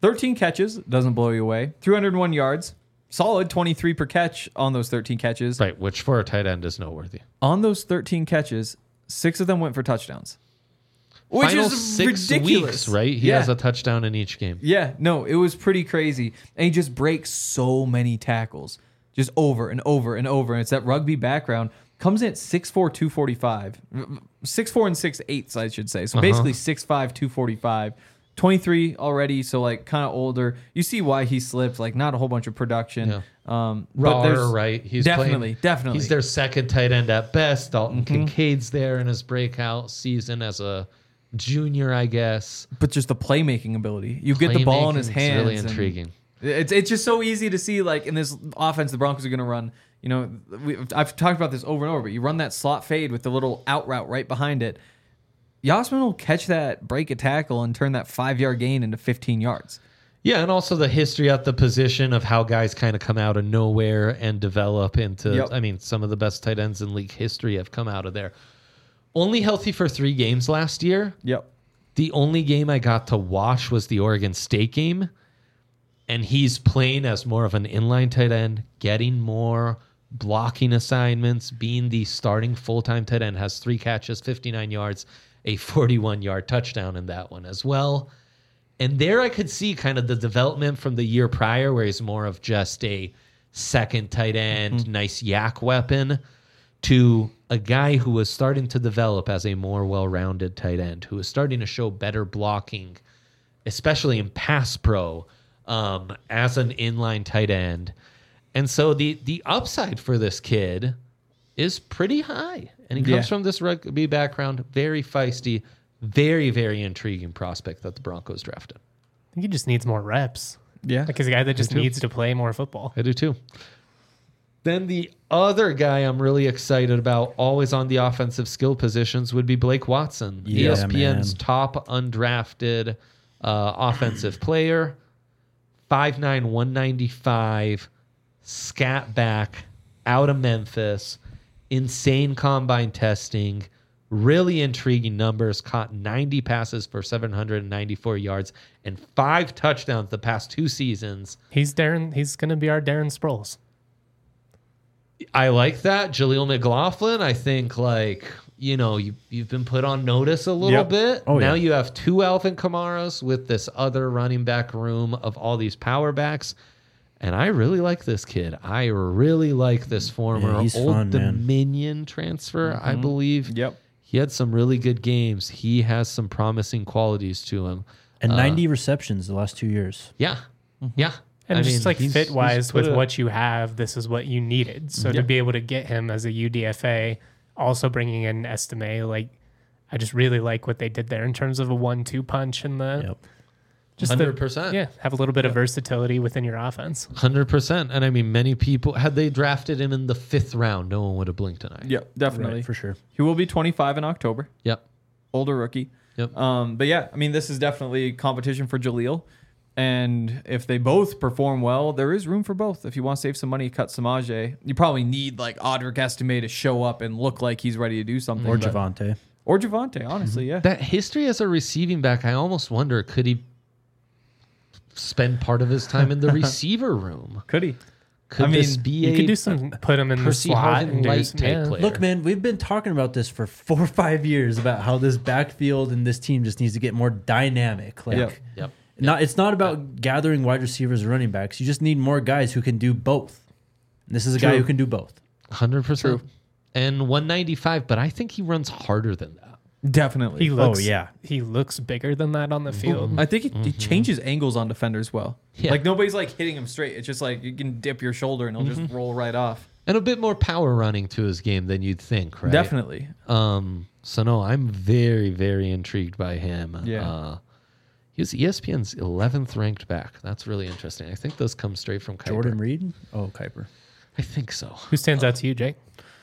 13 catches, doesn't blow you away. 301 yards, solid 23 per catch on those 13 catches. Right, which for a tight end is noteworthy. On those 13 catches, 6 of them went for touchdowns. Which Final is 6 ridiculous. weeks, right? He Yeah. has a touchdown in each game. Yeah, no, it was pretty crazy. And he just breaks so many tackles, just over and over and over. And it's that rugby background. Comes in at 6'4", 245. 6'4" and 6'8", I should say. So basically 6'5", 245. 23 already, so like kind of older. You see why he slipped, like not a whole bunch of production. Yeah. But Raw, there's right? He's definitely. He's their second tight end at best. Dalton Kincaid's there in his breakout season as a junior, I guess. But just the playmaking ability. You get the ball in his Playmaking's hands. really and intriguing. It's just so easy to see, like in this offense, the Broncos are going to run. You know, I've talked about this over and over, but you run that slot fade with the little out route right behind it. Yasmin will catch that, break a tackle, and turn that 5-yard gain into 15 yards. Yeah, and also the history at the position of how guys kind of come out of nowhere and develop into, Yep. I mean, some of the best tight ends in league history have come out of there. Only healthy for 3 games last year. Yep. The only game I got to watch was the Oregon State game, and he's playing as more of an inline tight end, getting more blocking assignments, being the starting full-time tight end, has 3 catches, 59 yards, a 41-yard touchdown in that one as well. And there I could see kind of the development from the year prior where he's more of just a second tight end, nice yak weapon, to a guy who was starting to develop as a more well-rounded tight end, who was starting to show better blocking, especially in pass pro, as an inline tight end. And so the upside for this kid is pretty high. And he comes from this rugby background, very feisty, very, very intriguing prospect that the Broncos drafted. I think he just needs more reps. Yeah. Like he's a guy that just needs to play more football. I do too. Then the other guy I'm really excited about, always on the offensive skill positions, would be Blake Watson, Yeah, ESPN's man. top undrafted offensive player. 5'9", 195, scat back, out of Memphis, insane combine testing, really intriguing numbers, caught 90 passes for 794 yards and 5 touchdowns the past 2 seasons. He's going to be our Darren Sproles. I like that. Jaleel McLaughlin, I think, like, you know, you've been put on notice a little Yep. bit. Oh, now yeah. you have 2 Alvin Kamaras with this other running back room of all these power backs. And I really like this kid. I really like this former he's Old fun, man. Dominion transfer, I believe. Yep. He had some really good games. He has some promising qualities to him. And 90 receptions the last 2 years. Yeah. Yeah. And I just mean, like he's fit wise put with a- what you have, this is what you needed. So to be able to get him as a UDFA, also bringing in Estime, like I just really like what they did there in terms of a 1-2 punch and the Yep. just 100%. Yeah, have a little bit of versatility within your offense. 100%. And I mean, many people, had they drafted him in the 5th round, no one would have blinked an eye. Yep, definitely. Right, for sure. He will be 25 in October. Yep. Older rookie. Yep. But yeah, I mean, this is definitely competition for Jaleel. And if they both perform well, there is room for both. If you want to save some money, cut Samaje. You probably need like Audric Estime to show up and look like he's ready to do something. Or but- Javante. Or Javante, honestly, yeah. That history as a receiving back, I almost wonder, could he spend part of his time in the receiver room? Could he? Could I mean, this be You a could do some, put him in the Percy slot Harvin and do Light some, type yeah. player? Look, man, we've been talking about this for 4 or 5 years about how this backfield and this team just needs to get more dynamic. Like, Yep. Yep. it's not about gathering wide receivers or running backs. You just need more guys who can do both. And this is a guy True. who can do both. 100%. And 195, but I think he runs harder than that. Definitely. He looks, yeah. he looks bigger than that on the field. I think he changes angles on defenders well. Yeah. Like nobody's like hitting him straight. It's just like you can dip your shoulder and he'll just roll right off. And a bit more power running to his game than you'd think, right? Definitely. So no, I'm very, very intrigued by him. Yeah. He was ESPN's 11th ranked back. That's really interesting. I think those come straight from Kuiper. Jordan Reed? Oh, Kuiper. I think so. Who stands out to you, Jake?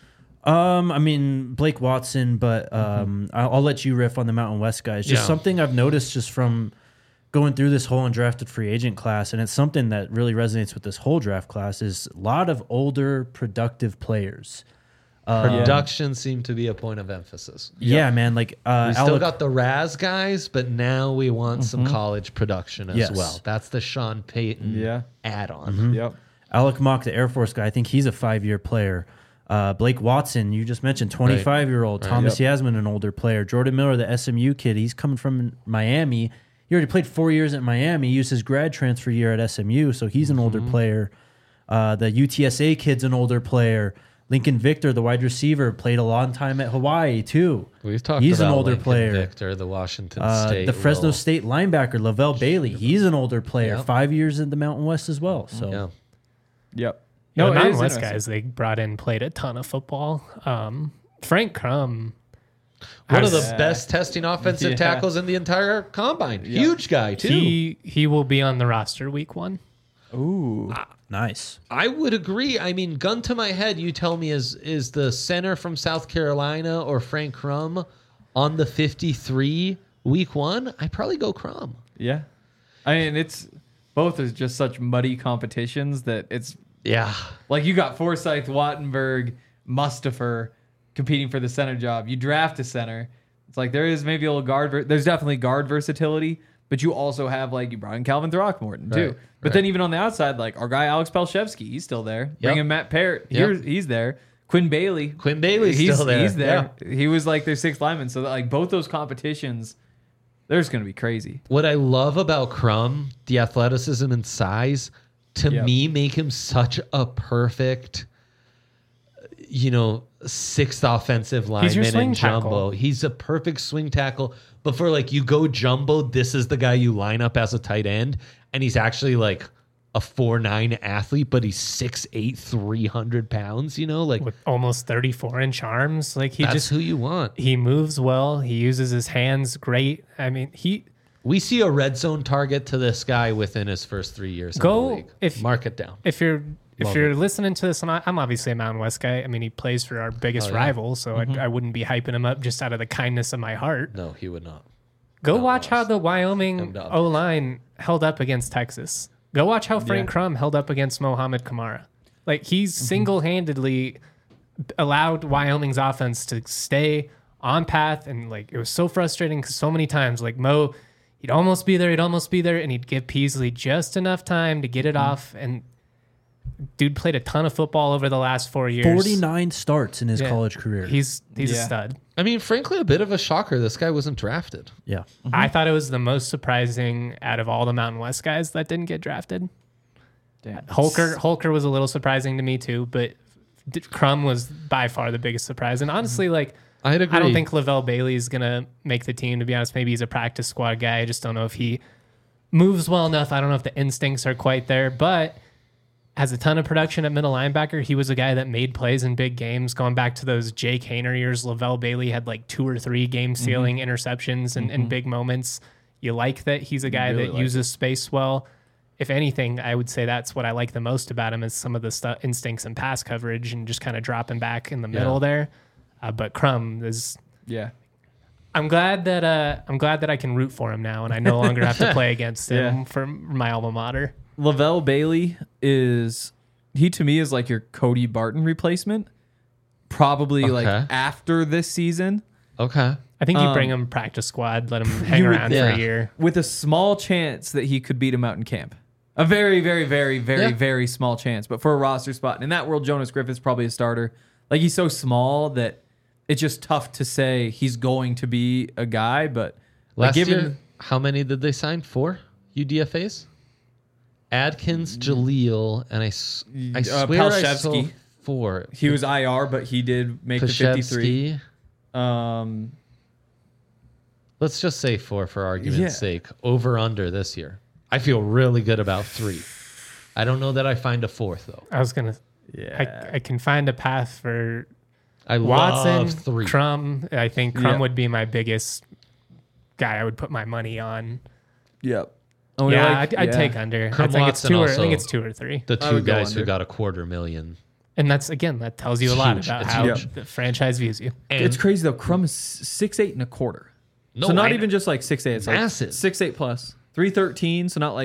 I mean, Blake Watson, but I'll let you riff on the Mountain West guys. Just Yeah. something I've noticed just from going through this whole undrafted free agent class, and it's something that really resonates with this whole draft class, is a lot of older, productive players. Production seemed to be a point of emphasis. Yeah, man. Like We still Alec, got the Raz guys, but now we want some college production as Yes. well. That's the Sean Payton add-on. Yep. Alec Mock, the Air Force guy. I think he's a 5-year player. Blake Watson, you just mentioned, 25-year-old. Thomas Yasmin, an older player. Jordan Miller, the SMU kid. He's coming from Miami. He already played 4 years at Miami. He used his grad transfer year at SMU, so he's an older player. The UTSA kid's an older player. Lincoln Victor, the wide receiver, played a long time at Hawaii too. We've talked He's about an older Lincoln player. Victor, the Washington State. The Fresno role. State linebacker, Lavelle Bailey. He's an older player. Yep. 5 years in the Mountain West as well. So Yeah. Yep. No, the it Mountain is West interesting. guys they brought in played a ton of football. Frank Crum, One of has- the best testing offensive Yeah. tackles in the entire combine. Huge guy, too. he will be on the roster week 1. Ooh. nice. I would agree. I mean, gun to my head, you tell me is the center from South Carolina or Frank Crum on the 53 week 1? I'd probably go Crum. Yeah. I mean, it's both is just such muddy competitions that it's Yeah. like you got Forsyth, Wattenberg, Mustafer competing for the center job. You draft a center. It's like there is maybe a little guard. There's definitely guard versatility, but you also have like you brought in Calvin Throckmorton too. Right, But right. then even on the outside, like our guy Alex Palshevsky, he's still there. Bring in Matt Parrott, Yep. he's there. Quinn Bailey, Quinn Bailey's still there. He's there. He was like their 6th lineman. So that, like both those competitions, they're just gonna be crazy. What I love about Crum, the athleticism and size, to Yep. me make him such a perfect, 6th offensive He's your lineman swing in jumbo. tackle. He's a perfect swing tackle. But for like you go jumbo, this is the guy you line up as a tight end, and he's actually like a 4'9" athlete, but he's 6'8", 300 pounds. Like with almost 34-inch arms. Like he that's just who you want. he moves well. He uses his hands great. I mean, We see a red zone target to this guy within his first 3 years. Go- in the league. if- Mark it down. if you're Love listening to this, and I'm obviously a Mountain West guy. I mean, he plays for our biggest Oh, yeah. rival, so I wouldn't be hyping him up just out of the kindness of my heart. No, he would not. Go Mountain watch how West. the Him Wyoming down. O-line held up against Texas. Go watch how Frank Crum held up against Mohamed Kamara. Like, he's single-handedly allowed Wyoming's offense to stay on path, and, like, it was so frustrating because so many times, like, Mo, he'd almost be there, and he'd give Peasley just enough time to get it off, and dude played a ton of football over the last 4 years. 49 starts in his Yeah. college career. He's a Yeah. stud. I mean, frankly, a bit of a shocker. This guy wasn't drafted. yeah. I thought it was the most surprising out of all the Mountain West guys that didn't get drafted. Damn. Holker was a little surprising to me too, but Crum was by far the biggest surprise. And honestly, like I'd agree. I don't think Lavelle Bailey is gonna make the team. To be honest, maybe he's a practice squad guy. I just don't know if he moves well enough. I don't know if the instincts are quite there, but has a ton of production at middle linebacker. He was a guy that made plays in big games. Going back to those Jake Haener years, Lavelle Bailey had like 2 or 3 game-sealing interceptions in big moments. You like that he's a guy really that like uses space well. If anything, I would say that's what I like the most about him is some of the instincts and pass coverage and just kind of dropping back in the middle there. But Crum is. Yeah. I'm glad that I can root for him now, and I no longer have to play against him for my alma mater. Lavelle Bailey to me is like your Cody Barton replacement. Probably like Okay. after this season Okay. I think you bring him practice squad, let him hang you would- around for yeah. a year. with a small chance that he could beat him out in camp. A very, very, very, very, Yeah. very small chance. But for a roster spot, and in that world, Jonas Griffith's probably a starter. Like he's so small that it's just tough to say he's going to be a guy. But like, Last given year, how many did they sign? 4 UDFAs? Adkins, Jaleel, and I swear I saw Palshevsky. 4. he was IR, but he did make the 53. Pashevsky. Let's just say 4 for argument's Yeah. sake. Over under this year. I feel really good about 3. I don't know that I find a 4th though. I was gonna. Yeah. I can find a path for I Watson, love 3. Crum. I think Crum Yeah. would be my biggest guy. I would put my money on. Yep. I'd take under. Crum I think it's Watson 2 or I also- think it's 2 or 3. The I 2 would go guys who under. got $250,000. And that's again that tells you a It's lot huge. about It's how huge. the franchise views you. And It's crazy though. Crum is 6'8" and a quarter. No, so not I- even just like 6'8". It's Massive. like 6'8" plus 313. So not like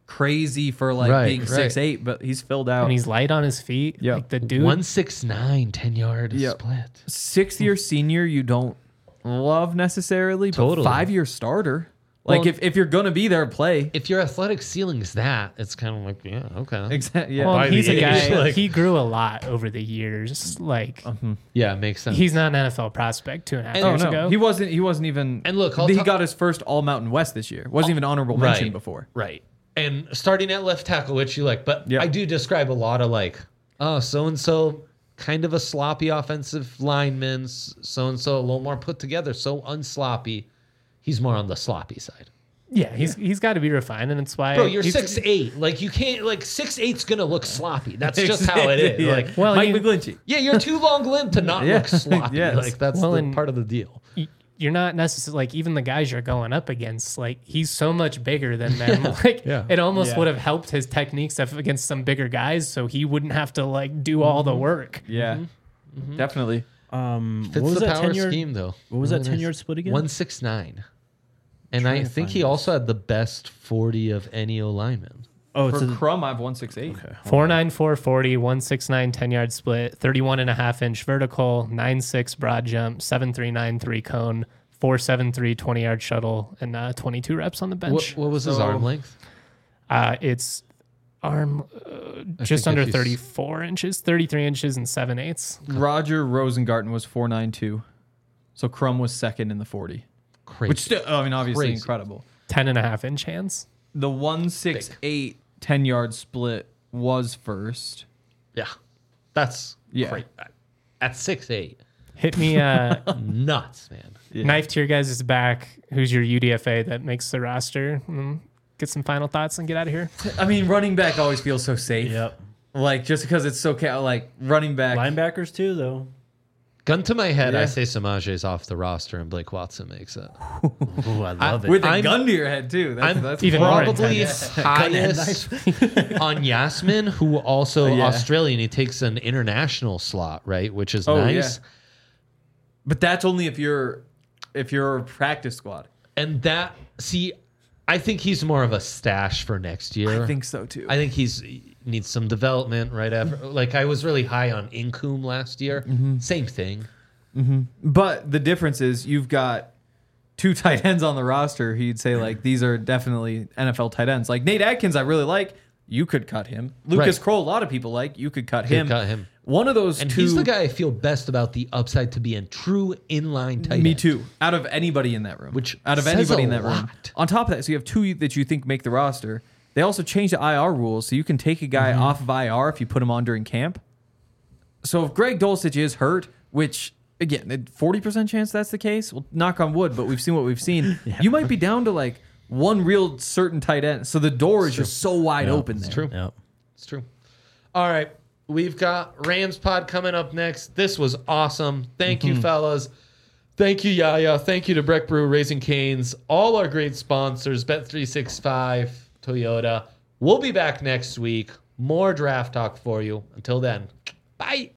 crazy for like Right, being right. 6'8", but he's filled out. And he's light on his feet. Yeah. Like the dude. 169, 10-yard Yep. split. 6th-year senior you don't love necessarily, but Totally. 5-year starter. Like Well, if you're gonna be there, play. If your athletic ceiling is that, it's kind of like, yeah, okay. Exactly. Yeah. Well, By he's the a age, guy. like- He grew a lot over the years. Like Yeah, it makes sense. he's not an NFL prospect 2.5 And- Oh years no, ago. he wasn't even. And look, I'll he talk- got his first All Mountain West this year. Wasn't even honorable mention before. Right. And starting at left tackle, which you like, but Yeah. I do describe a lot of like, oh, so and so kind of a sloppy offensive lineman, so and so a little more put together, so unsloppy. He's more on the sloppy side. Yeah, he's got to be refined, and it's why. Bro, you're he's- 6'8". Like you can't like 6'8's gonna look sloppy. That's just how it is. Yeah. Like Well, Mike you- McGlinchey. yeah, you're too long limbed to not Yeah. look sloppy. Yes. Like that's Well, the and- part of the deal. You're not necessarily like even the guys you're going up against. Like he's so much bigger than them. Like Yeah. it almost Yeah. would have helped his technique stuff against some bigger guys, so he wouldn't have to like do all the work. Yeah, definitely. Fits what was the that power 10-yard? scheme though. What was that Really 10-yard nice. split again? 169. And Trying I to think find he this. also had the best 40 of any O lineman. Oh, it's For a, Crum, I have 168. okay. 4.94 40, 169 10-yard split, 31.5-inch vertical, 9.6 broad jump, 7.39 3 cone, 4.73 20-yard shuttle, and 22 reps on the bench. What was his So- arm length? It's arm I just think under if you 34 inches, 33 inches and 7/8. Roger Rosengarten was 492. So Crum was second in the 40. Crazy. Which still, I mean, obviously Crazy. incredible. 10.5-inch hands. The 168 10-yard split was first. yeah. That's Yeah. great. At 6'8". Hit me Nuts, man. Yeah. knife to your guys' back. Who's your UDFA that makes the roster? Get some final thoughts and get out of here. I mean, running back always feels so safe. Yep. Like, just because it's so, like, running back. Linebackers too, though. Gun to my head, Yeah. I say Samaje's off the roster and Blake Watson makes it. Ooh, I love it. With a I'm- gun to your head, too. I'm That's even more probably intense. highest on Yasmin, who also Yeah. Australian. He takes an international slot, right? Which is Oh, nice. yeah. But that's only if you're a practice squad. And that, see, I think he's more of a stash for next year. I think so, too. I think he needs some development right after. Like I was really high on Incoom last year. Same thing. But the difference is you've got two tight ends on the roster. He'd say like these are definitely NFL tight ends. Like Nate Atkins, I really like. You could cut him. Lucas Right. Kroll, a lot of people like. You could cut Could him. cut him. One of those And two. he's the guy I feel best about the upside to be in true inline tight Me end. too. Out of anybody in that room. Which out of says anybody a in that room. lot. On top of that, so you have two that you think make the roster. They also changed the IR rules, so you can take a guy Mm-hmm. off of IR if you put him on during camp. So if Greg Dulcich is hurt, which again, 40% chance that's the case. Well, knock on wood, but we've seen what we've seen. You might be down to like one real certain tight end. So the door is just so wide open there. It's true. Yep. It's true. All right. We've got Rams Pod coming up next. This was awesome. Thank you, fellas. Thank you, Yaya. Thank you to Breck Brew, Raising Canes, all our great sponsors, Bet365, Toyota. We'll be back next week. More draft talk for you. Until then, bye.